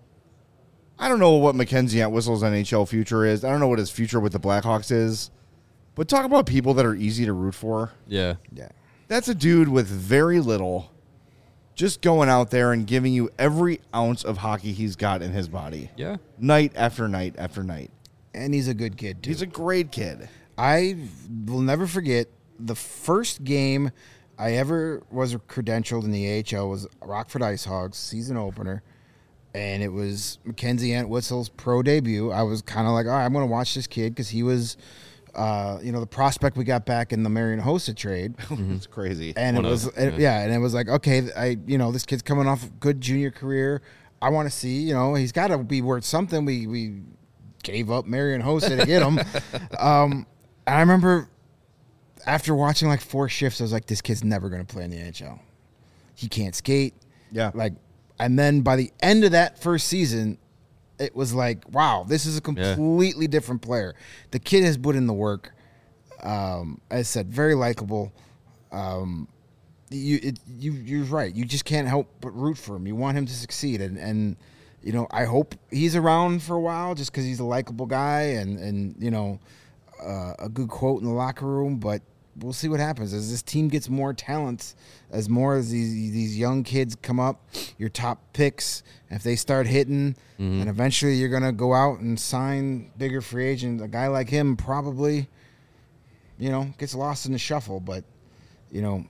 I don't know what Mackenzie Entwistle's N H L future is. I don't know what his future with the Blackhawks is. But talk about people that are easy to root for. Yeah, Yeah. That's a dude with very little, just going out there and giving you every ounce of hockey he's got in his body. yeah. Night after night after night. And he's a good kid, too. He's a great kid. I will never forget the first game I ever was credentialed in the A H L was Rockford Ice Hogs season opener, and it was Mackenzie Entwistle's pro debut. I was kind of like, all right, I'm going to watch this kid because he was, uh, you know, the prospect we got back in the Marion Hossa trade. It's crazy. And One it of was, them, and- yeah. yeah. and it was like, okay, I, you know, this kid's coming off a good junior career. I want to see, you know, he's got to be worth something. We we gave up Marion Hossa to get him. um, and I remember after watching like four shifts, I was like, this kid's never going to play in the N H L. He can't skate. Yeah. Like, and then by the end of that first season, it was like, wow, this is a completely different player. The kid has put in the work. Um, as I said, very likable. Um, you, it, you, you're right. You just can't help but root for him. You want him to succeed, and and you know, I hope he's around for a while, just because he's a likable guy and and you know, uh, a good quote in the locker room. But we'll see what happens as this team gets more talent, as more of these these young kids come up, your top picks. If they start hitting, and eventually you're gonna go out and sign bigger free agent. A guy like him probably, you know, gets lost in the shuffle. But you know,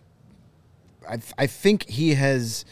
I I think he has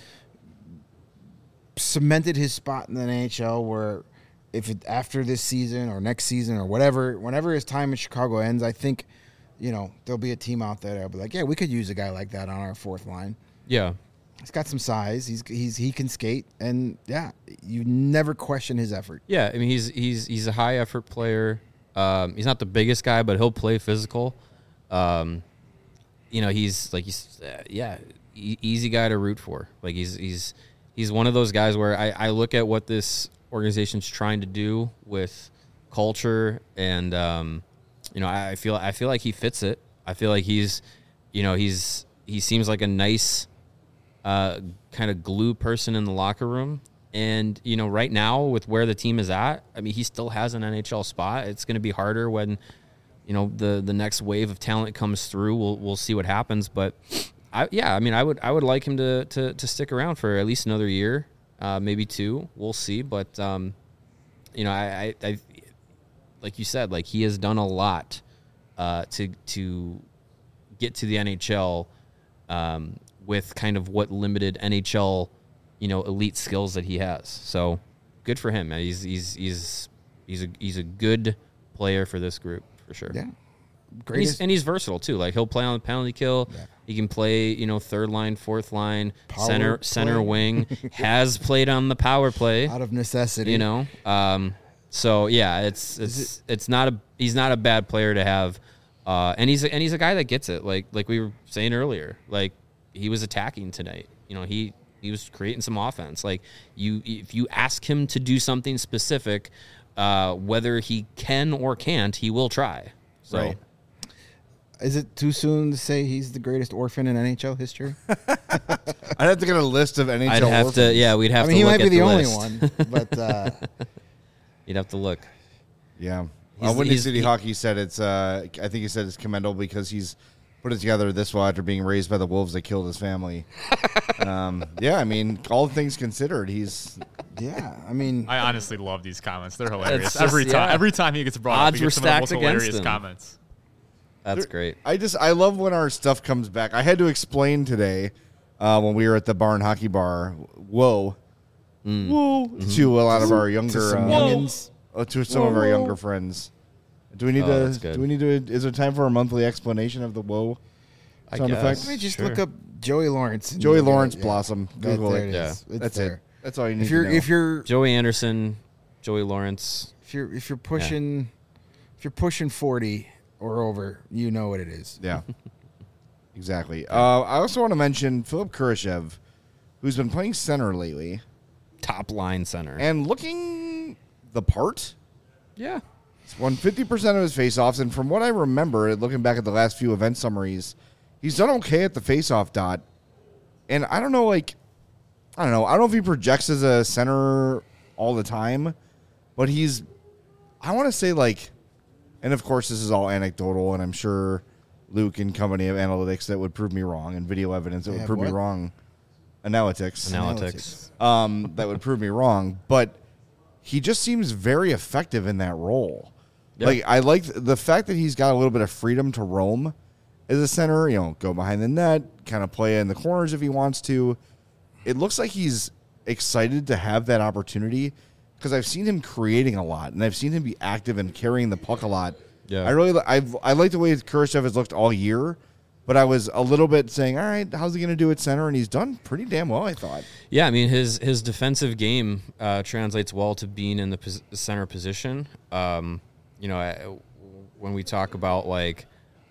cemented his spot in the N H L where if it, after this season or next season or whatever, whenever his time in Chicago ends, I think, you know, there'll be a team out there that'll be like, yeah, we could use a guy like that on our fourth line. Yeah. He's got some size. He's he's he can skate, and yeah, you never question his effort. Yeah, I mean he's he's he's a high effort player. Um, he's not the biggest guy, but he'll play physical. Um, you know, he's like he's uh, yeah, e- easy guy to root for. Like he's he's he's one of those guys where I, I look at what this organization's trying to do with culture, and um, you know, I, I feel I feel like he fits it. I feel like he's, you know, he's he seems like a nice. Uh, kind of glue person in the locker room. And, you know, right now with where the team is at, I mean, he still has an N H L spot. It's going to be harder when, you know, the, the next wave of talent comes through. We'll, we'll see what happens. But I, yeah, I mean, I would, I would like him to, to, to stick around for at least another year, uh, maybe two. We'll see. But, um, you know, I, I, I, like you said, like he has done a lot, uh, to, to get to the N H L, um, with kind of what limited N H L, you know, elite skills that he has. So good for him. He's he's he's he's a he's a good player for this group for sure. Yeah, And he's, greatest and he's versatile too. Like he'll play on the penalty kill. Yeah. He can play, you know, third line, fourth line, Power center play. center wing. Has played on the power play. out of necessity. You know, um, so yeah, it's it's it's not a he's not a bad player to have, uh, and he's a, and he's a guy that gets it. Like like we were saying earlier, like he was attacking tonight. You know, he he was creating some offense. Like you, if you ask him to do something specific, uh, whether he can or can't, he will try. So. Right. Is it too soon to say he's the greatest orphan in N H L history? I'd have to get a list of N H L I'd have orphans. to, yeah, we'd have I mean, to he look might be at the, the only list. one, but uh, You'd have to look. Yeah. He's- Uh, Windy he's- City he- Hockey said it's, uh, I think he said it's commendable because he's put it together this well after being raised by the wolves that killed his family. um, yeah, I mean, all things considered, he's yeah, I mean, I honestly love these comments. They're hilarious. just- every time, yeah. every time he gets brought up, Odds he were gets some of the most stacked against hilarious him. comments. That's great. I just I love when our stuff comes back. I had to explain today uh, when we were at the Barn Hockey Bar. Whoa, whoa, to a lot of our younger, to some uh, youngins. uh, to some of our younger friends. Do we need Oh, that's to? good. Do we need to? Is there time for a monthly explanation of the whoa I sound guess. effect? Let me just Sure. look up Joey Lawrence. and Joey you'll get Lawrence it, yeah. Blossom. Right Google there it. it Yeah. is. It's That's there. it. That's all you need If you're to know. if you're Joey Anderson, Joey Lawrence. if you're if you're pushing if you're pushing forty or over, you know what it is. Yeah, exactly. Uh, I also want to mention Philip Kurashev, who's been playing center lately Top line center. and looking the part. yeah. He's won fifty percent of his faceoffs, and from what I remember, looking back at the last few event summaries, he's done okay at the faceoff dot. And I don't know, like, I don't know. I don't know if he projects as a center all the time, but he's, I want to say, like, and of course, this is all anecdotal, and I'm sure Luke and company have analytics that would prove me wrong, and video evidence that They would have prove me what? wrong. Analytics. Analytics. Um, that would prove me wrong, but he just seems very effective in that role. Yeah. Like, I like the fact that he's got a little bit of freedom to roam as a center, you know, go behind the net, kind of play in the corners if he wants to. It looks like he's excited to have that opportunity because I've seen him creating a lot, and I've seen him be active and carrying the puck a lot. Yeah. I really, I I like the way Kurashev has looked all year, but I was a little bit saying, all right, how's he going to do at center? And he's done pretty damn well, I thought. Yeah, I mean his his defensive game uh, translates well to being in the pos- center position. Um, you know, I, when we talk about like,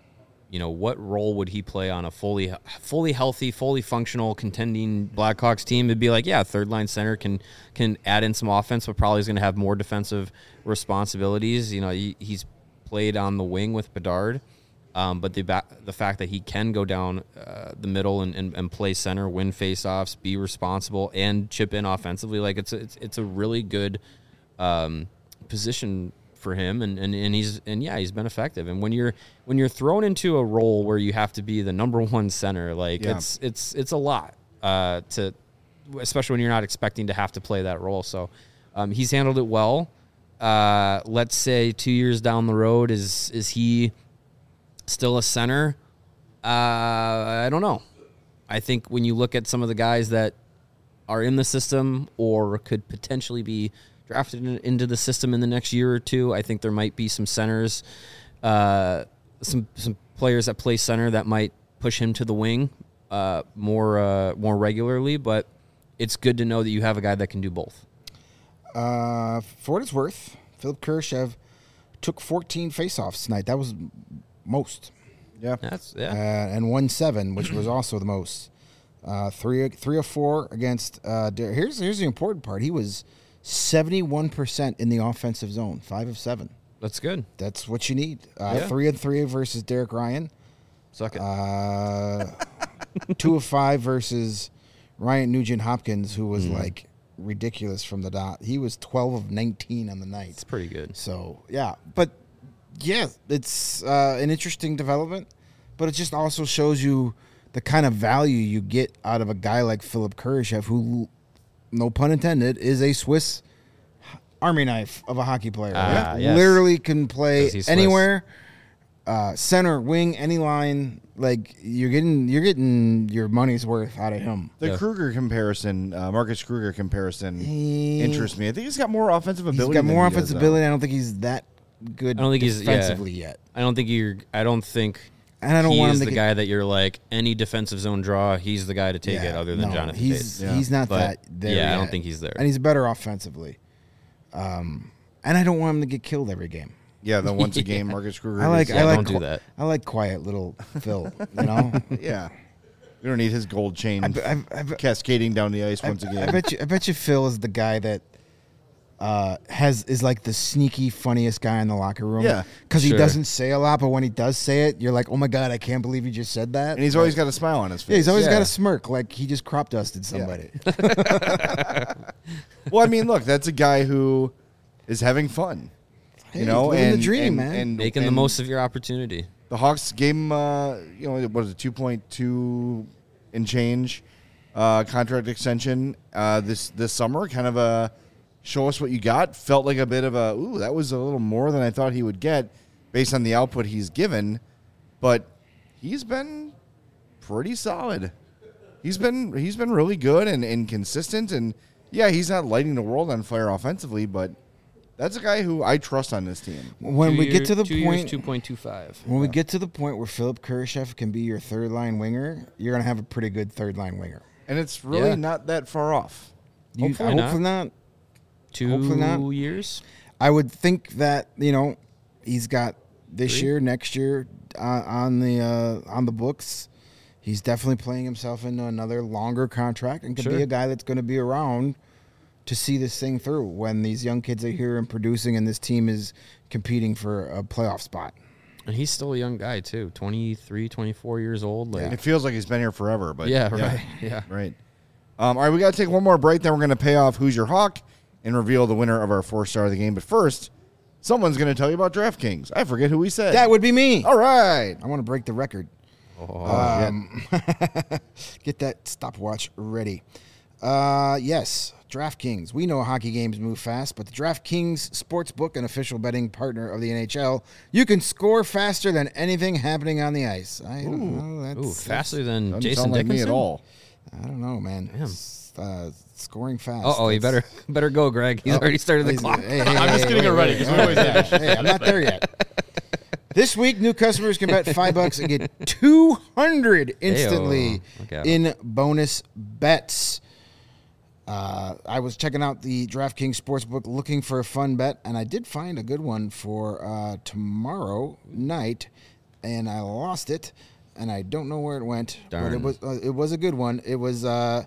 you know, what role would he play on a fully fully healthy, fully functional contending Blackhawks team? It'd be like, yeah, third line center can can add in some offense, but probably is going to have more defensive responsibilities. You know, he, he's played on the wing with Bedard. Um, but the ba- the fact that he can go down uh, the middle and, and, and play center, win faceoffs, be responsible, and chip in offensively, like it's a, it's, it's a really good um, position for him, and, and, and he's and yeah, he's been effective. And when you're when you're thrown into a role where you have to be the number one center, like Yeah. it's it's it's a lot uh, to, especially when you're not expecting to have to play that role. So um, he's handled it well. Uh, let's say two years down the road, is is he still a center? Uh, I don't know. I think when you look at some of the guys that are in the system or could potentially be drafted in, into the system in the next year or two, I think there might be some centers, uh, some some players that play center that might push him to the wing uh, more uh, more regularly. But it's good to know that you have a guy that can do both. Uh, for what it's worth, Philip Kurashev took fourteen faceoffs tonight. That was most. Yeah. That's Uh, yeah. and won seven, which was also the most. Uh, three, three or four against. Uh, Dar- here's here's the important part. He was seventy-one percent in the offensive zone, five of seven. That's good. That's what you need. Uh, Yeah. Three and three versus Derek Ryan. Suck it. Uh, two of five versus Ryan Nugent Hopkins, who was like ridiculous from the dot. He was twelve of nineteen on the night. It's pretty good. So yeah, but yeah, it's uh, an interesting development, but it just also shows you the kind of value you get out of a guy like Philip Kurashev, who, no pun intended, is a Swiss Army knife of a hockey player. Ah, Like, yes. Literally can play 'Cause he's Swiss. anywhere, uh, center, wing, any line. Like you're getting, you're getting your money's worth out of him. The Yeah. Kruger comparison, uh, Marcus Kruger comparison, He- interests me. I think he's got more offensive He's ability. got than more he does, offensive though. ability. I don't think he's that good I don't think he's- yeah. defensively yet. I don't think you're. I don't think. And I don't he want him is to the get- guy that you're like any defensive zone draw. He's the guy to take it, Yeah, other than no, Jonathan He's Taves. Yeah. he's not But, that there. yeah, I yet. don't think he's there. and he's better offensively. Um, and I don't want him to get killed every game. Yeah, then once a game, Marcus Kruger. I like is- I Yeah, like don't do qui- that. I like quiet little Phil. You know, yeah. We don't need his gold chain I, be- I, be- I, be- cascading down the ice once I again. bet you I bet you Phil is the guy that uh, has is like the sneaky funniest guy in the locker room. Yeah. because he Sure. doesn't say a lot, but when he does say it, you're like, oh my god, I can't believe he just said that. And he's always got a smile on his face. yeah, he's always Yeah. got a smirk, like he just crop dusted somebody. Well, I mean, look, that's a guy who is having fun. Hey, You know, living and the dream, and- man. and- Making the and most of your opportunity. The Hawks gave him, uh, you know, what is it, two point two and change uh, contract extension uh, this this summer. Kind of a show us what you got. Felt like a bit of a, ooh, that was a little more than I thought he would get based on the output he's given. But he's been pretty solid. He's been he's been really good and, and consistent. And, yeah, he's not lighting the world on fire offensively, but that's a guy who I trust on this team. When Two we year- get to the two point, two point two five. when we get to the point where Philip Kurashev can be your third line winger, you're gonna have a pretty good third line winger. And it's really Yeah. not that far off. You, Hopefully not. hopefully not. Two Hopefully not. years. I would think that, you know, he's got this Three? year, next year uh, on the uh, on the books. He's definitely playing himself into another longer contract and could Sure. be a guy that's going to be around to see this thing through when these young kids are here and producing and this team is competing for a playoff spot. And he's still a young guy, too. twenty-three, twenty-four years old. Like, It feels like he's been here forever, but yeah, right. Yeah. right. Um, all right, we got to take one more break. Then we're going to pay off Who's Your Hawk and reveal the winner of our four star of the game. But first, someone's going to tell you about DraftKings. I forget who we said. That would be me. All right. I want to break the record. Oh, Um, get that stopwatch ready. Uh, yes, DraftKings. We know hockey games move fast, but the DraftKings Sportsbook, an official betting partner of the N H L, you can score faster than anything happening on the ice. I don't know. That's, Ooh, faster than Doesn't Jason sound like Dickinson? me at all. I don't know, man. S- Uh, scoring fast. Uh-oh, you better That's- better go, Greg. He's already started the He's- clock. hey, hey, I'm just hey, getting wait, it ready wait, 'cause we wait, always wait. finish. Hey, I'm not there yet. This week, new customers can bet five bucks and get two hundred instantly Hey-o. Look out. in bonus bets. Uh, I was checking out the DraftKings Sportsbook looking for a fun bet, and I did find a good one for uh, tomorrow night, and I lost it, and I don't know where it went. But Darn. it was uh, it was a good one. It was uh,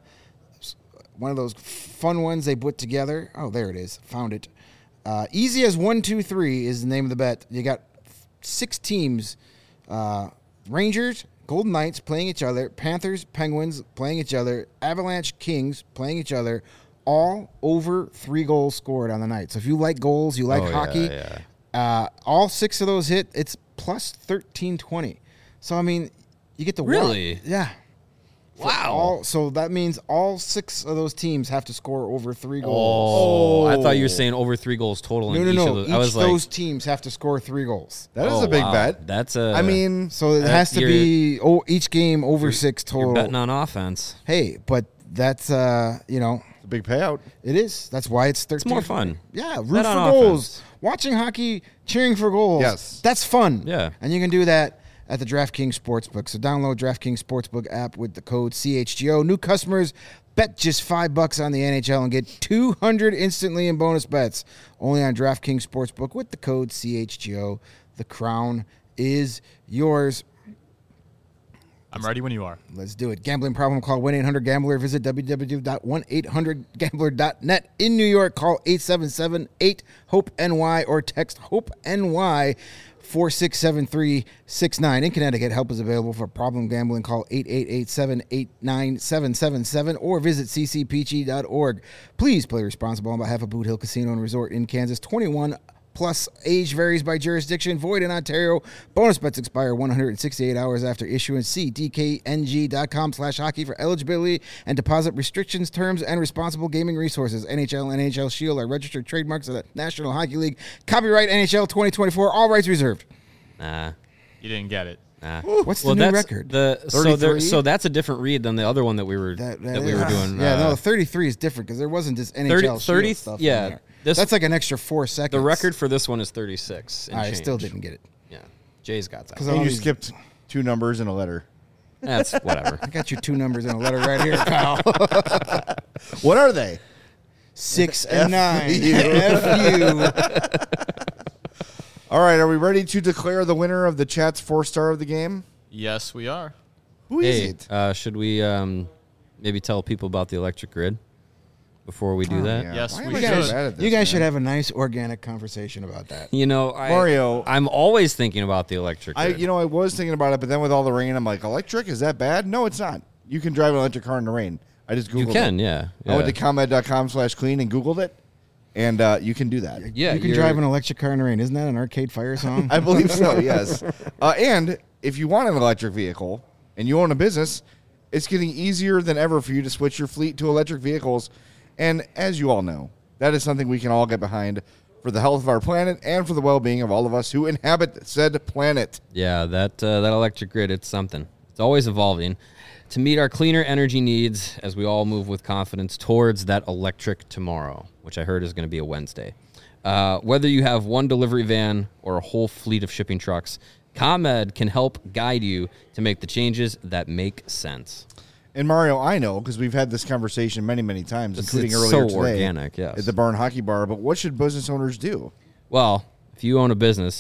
one of those fun ones they put together. Oh, there it is. Found it. Uh, easy as one, two, three is the name of the bet. You got six teams: uh, Rangers, Golden Knights playing each other, Panthers, Penguins playing each other, Avalanche, Kings playing each other. All over three goals scored on the night. So if you like goals, you like Oh, yeah, hockey. yeah. Uh, all six of those hit. It's plus thirteen twenty. So I mean, you get to Really? yeah. For Wow. All, so that means all six of those teams have to score over three goals. Oh, I thought you were Oh. saying over three goals total No, in no, each no. of those. Each I was of like, those teams have to score three goals. That is oh, a big wow. bet. That's a. I mean, So it That- has to you're- be oh, each game over six you're total. betting on offense. Hey, but that's uh, you know, it's a big payout. it is. That's why it's thirteen. It's more fun. Yeah, root Bet for on goals. offense. Watching hockey, cheering for goals. Yes. That's fun. Yeah. And you can do that at the DraftKings Sportsbook. So download DraftKings Sportsbook app with the code C H G O. New customers bet just five bucks on the N H L and get two hundred instantly in bonus bets. Only on DraftKings Sportsbook with the code C H G O. The crown is yours. I'm ready when you are. Let's do it. Gambling problem, call one eight hundred gambler. Visit w w w dot one eight hundred gambler dot net. In New York, call eight seven seven eight hope N Y or text HOPE-NY four six seven three six nine. In Connecticut, help is available for problem gambling. Call eight eight eight, seven eight nine, seven seven seven or visit c c p g dot org. Please play responsible on behalf of Boot Hill Casino and Resort in Kansas. twenty-one plus, age varies by jurisdiction, void in Ontario. Bonus bets expire one hundred sixty-eight hours after issuance. See d k n g dot com slash hockey for eligibility and deposit restrictions, terms, and responsible gaming resources. N H L and N H L Shield are registered trademarks of the National Hockey League. Copyright N H L twenty twenty-four, all rights reserved. Nah. You didn't get it. Nah. What's the new that's record? The so there, thirty-three? so that's a different read than the other one that we were that, That, that we is- were doing. Yeah, uh, no, thirty-three is different because there wasn't just N H L thirty, Shield thirty stuff yeah, in there. this- That's like an extra four seconds. The record for this one is thirty-six. And I change. still didn't get it. Yeah, Jay's got that. Because And all you these- skipped two numbers and a letter. That's whatever. I got your two numbers in a letter right here, pal. What are they? Six and nine. you. F you. All right, are we ready to declare the winner of the chat's four star of the game? Yes, we are. Who is Hey, it? uh, should we um, maybe tell people about the electric grid before we do Oh, that? yeah. Yes, Why we am I You so guys, bad at this, you guys man? should have a nice organic conversation about that. You know, I, Mario. I'm always thinking about the electric I, grid. you know, I was thinking about it, but then with all the rain, I'm like, electric? Is that bad? No, it's not. You can drive an electric car in the rain. I just Googled you can, it. yeah. I went yeah. to ComEd dot com slash clean and Googled it, and uh, you can do that. Yeah, you can you're- drive an electric car in the rain. Isn't that an Arcade Fire song? I believe so, yes. Uh, and if you want an electric vehicle and you own a business, it's getting easier than ever for you to switch your fleet to electric vehicles. And as you all know, that is something we can all get behind for the health of our planet and for the well-being of all of us who inhabit said planet. Yeah, that uh, that electric grid, it's something. It's always evolving to meet our cleaner energy needs as we all move with confidence towards that electric tomorrow, which I heard is going to be a Wednesday. Uh, whether you have one delivery van or a whole fleet of shipping trucks, ComEd can help guide you to make the changes that make sense. And Mario, I know because we've had this conversation many, many times, It's- including it's earlier so today organic, yes. at the Barn Hockey Bar. But what should business owners do? Well, if you own a business,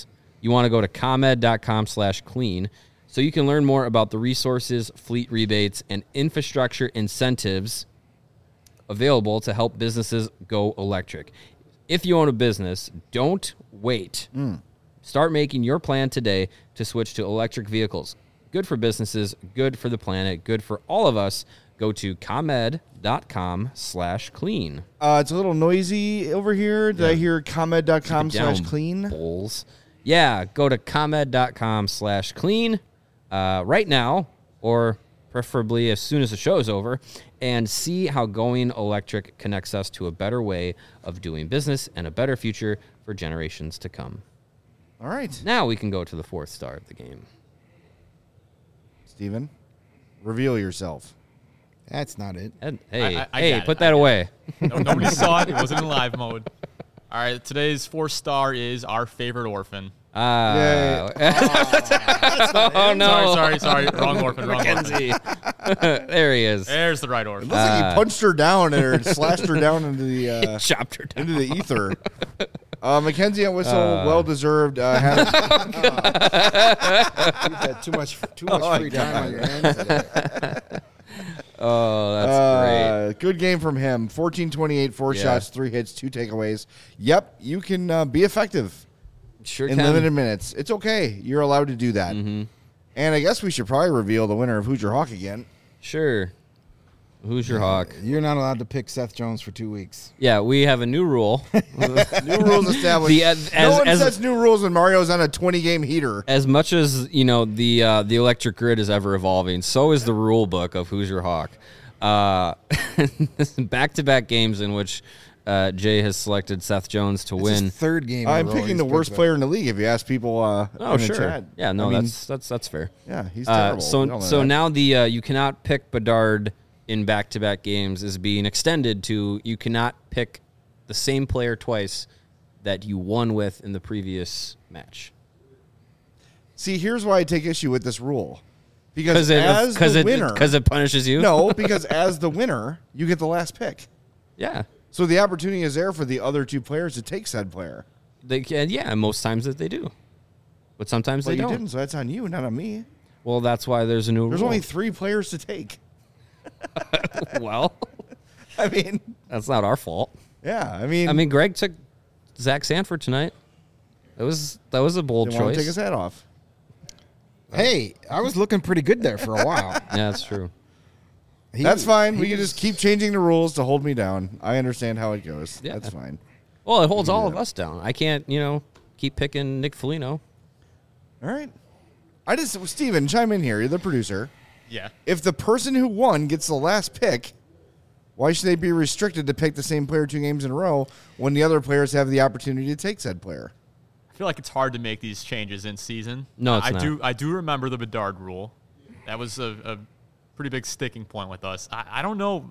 you want to go to ComEd.com slash clean so you can learn more about the resources, fleet rebates, and infrastructure incentives available to help businesses go electric. If you own a business, don't wait. Mm. Start making your plan today to switch to electric vehicles. Good for businesses, good for the planet, good for all of us. Go to ComEd.com slash clean. Uh, it's a little noisy over here. Did yeah. I hear ComEd.com slash clean? Bulls. Yeah, go to ComEd.com slash clean uh, right now, or preferably as soon as the show is over, and see how going electric connects us to a better way of doing business and a better future for generations to come. All right. Now we can go to the fourth star of the game. Steven, reveal yourself. That's not it. Ed, hey, I, I, I hey, put it. that away. No, nobody saw it. It wasn't in live mode. All right, today's fourth star is our favorite orphan. Ah. Uh, oh, no. Sorry, sorry, sorry. Wrong orphan, wrong Mackenzie. orphan. There he is. There's the right orphan. It looks uh, like he punched her down or slashed her down into the uh, chopped her down. into the ether. Uh, Mackenzie and Whistle, uh, well deserved. Uh, had You've had too much too much oh, free time on your hands today. Oh, that's uh, great. Good game from him. fourteen twenty-eight, four yeah. shots, three hits, two takeaways. Yep, you can uh, be effective sure in can. limited minutes. It's okay. You're allowed to do that. Mm-hmm. And I guess we should probably reveal the winner of Who's Your Hawk again. Sure. Who's your hawk? You're not allowed to pick Seth Jones for two weeks. Yeah, we have a new rule. New rules established. The, as, no one as, sets new rules when Mario's on a twenty-game heater. As much as you know, the uh, the electric grid is ever evolving, so is the rule book of Who's Your Hawk. Uh, back-to-back games in which uh, Jay has selected Seth Jones to it's win. His third game. I'm picking the worst player in the league. If you ask people, uh, oh in sure, the chat. yeah, no, I mean, that's that's that's fair. Yeah, he's uh, terrible. so so that. now the uh, you cannot pick Bedard in back-to-back games is being extended to you cannot pick the same player twice that you won with in the previous match. See, here's why I take issue with this rule. Because it, as the it, winner... Because it punishes you? No, because as the winner, you get the last pick. Yeah. So the opportunity is there for the other two players to take said player. They can, yeah, most times that they do. But sometimes well, they you don't. didn't, so that's on you, not on me. Well, that's why there's a new There's rule. only three players to take. Well, I mean, that's not our fault. Yeah, I mean, I mean, Greg took Zach Sanford tonight. That was that was a bold didn't choice. want to take his hat off. Hey, I was looking pretty good there for a while. Yeah, that's true. He, that's fine. We can just keep changing the rules to hold me down. I understand how it goes. Yeah. That's fine. Well, it holds all of us down. I can't, you know, keep picking Nick Foligno. All right. I just, Steven, chime in here. You're the producer. Yeah. If the person who won gets the last pick, why should they be restricted to pick the same player two games in a row when the other players have the opportunity to take said player? I feel like it's hard to make these changes in season. No, it's I not. do. I do remember the Bedard rule. That was a, a pretty big sticking point with us. I, I don't know.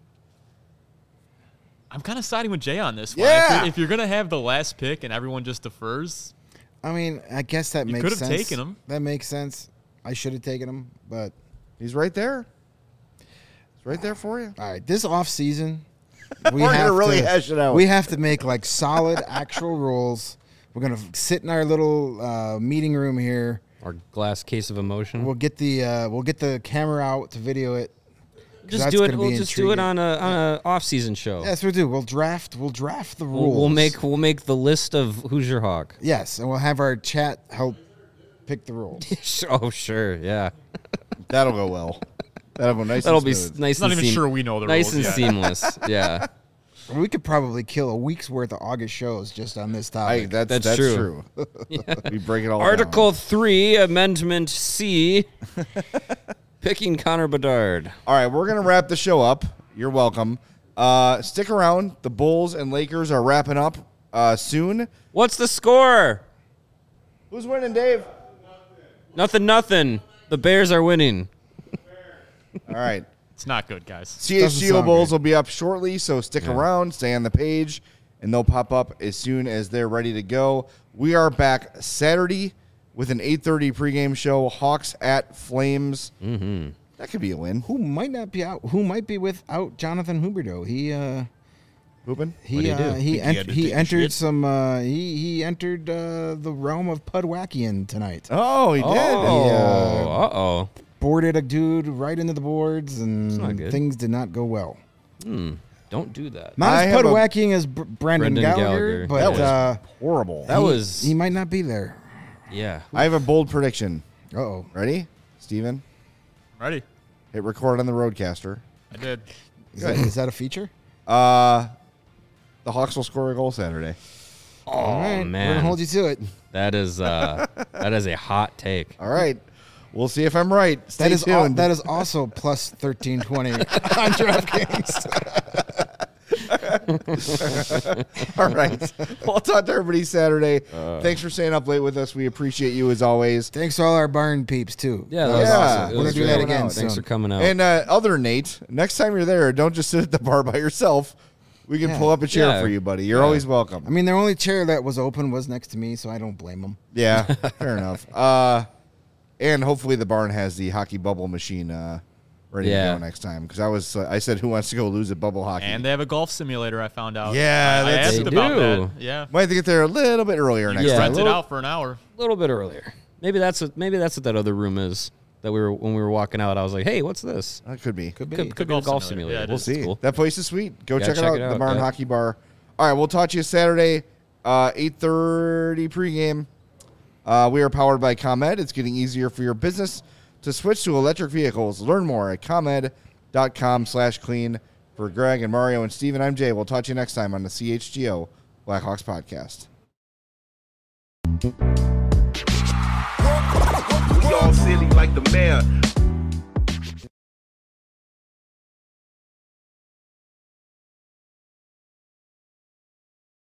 I'm kind of siding with Jay on this one. Yeah. If you're, if you're gonna have the last pick and everyone just defers, I mean, I guess that you makes could have sense. taken him. That makes sense. I should have taken him, but he's right there. He's right there for you. All right, this off season, we We're have gonna really to, hash it out. We have to make like solid actual rules. We're gonna sit in our little uh, meeting room here. Our glass case of emotion. We'll get the uh, we'll get the camera out to video it. Just do it. We'll just intriguing. do it on a on a off season show. Yes, we'll do. We'll draft. We'll draft the rules. We'll, we'll make we'll make the list of Who's Your Hawk. Yes, and we'll have our chat help pick the rules. Oh sure, yeah. That'll go well. That'll go nice. That'll and be smooth. nice. Not and even seam- sure we know the nice rules. Nice and yet. seamless. Yeah. We could probably kill a week's worth of August shows just on this I, topic. that's, That's that's true. true. Yeah. We break it all Article down. three, Amendment C, picking Connor Bedard. All right, we're going to wrap the show up. You're welcome. Uh, stick around. The Bulls and Lakers are wrapping up uh, soon. What's the score? Who's winning, Dave? Nothing, nothing. The Bears are winning. All right. It's not good, guys. C H G O sound Bulls good. will be up shortly, so stick Yeah. around, stay on the page, and they'll pop up as soon as they're ready to go. We are back Saturday with an eight thirty pregame show, Hawks at Flames. Hooping? He What'd he uh, do? he Think he ent- had to he take a entered shit? some uh, he he entered uh, the realm of Pudwackian tonight. Oh, he did. Oh, Yeah. uh oh. Boarded a dude right into the boards, not and good. things did not go well. Hmm. Don't do that. Not I as have a- Pudwacking as Br- Brandon, Brendan Gallagher, Gallagher. but That was- uh, Horrible. That he, was he might not be there. yeah. I have a bold prediction. Uh oh. Ready? Steven? Ready? Hit record on the Roadcaster. I did. Is that, is that a feature? Uh, the Hawks will score a goal Saturday. Oh All right, we're man, gonna hold you to it. that is uh that is a hot take. All right. We'll see if I'm right. Stay That is al- tuned. that is also plus thirteen twenty on DraftKings. All right. Well, I'll talk to everybody Saturday. Thanks for staying up late with us. We appreciate you as always. Thanks to all our barn peeps too. Yeah, that was Yeah. awesome. It We're was gonna do great. that again Thanks soon. for coming out. And uh, other Nate, next time you're there, don't just sit at the bar by yourself. We can Yeah. pull up a chair Yeah. for you, buddy. You're Yeah. always welcome. I mean, the only chair that was open was next to me, so I don't blame them. Yeah, fair enough. Uh, and hopefully the barn has the hockey bubble machine uh, ready Yeah. to go next time. Because I was, uh, I said, who wants to go lose at bubble hockey? And they have a golf simulator. I found out. Yeah, I, I that's- asked They about do. that. Yeah, Might have to get there a little bit earlier you next Yeah, can time. rent it little- out for an hour. a little bit earlier. Maybe that's what maybe that's what that other room is. That we were when we were walking out. I was like, "Hey, what's this?" That could be. Could be. Could, could be a golf golf simulator. simulator. Yeah, it We'll is. see. Cool. That place is sweet. Go Yeah, check, check it out. it The out, Barn yeah. Hockey Bar. All right, we'll talk to you Saturday, uh, eight thirty pregame. Uh, we are powered by ComEd. It's getting easier for your business to switch to electric vehicles. Learn more at ComEd.com slash clean. For Greg and Mario and Steven, I'm Jay. We'll talk to you next time on the C H G O Blackhawks podcast. We all silly like the mayor.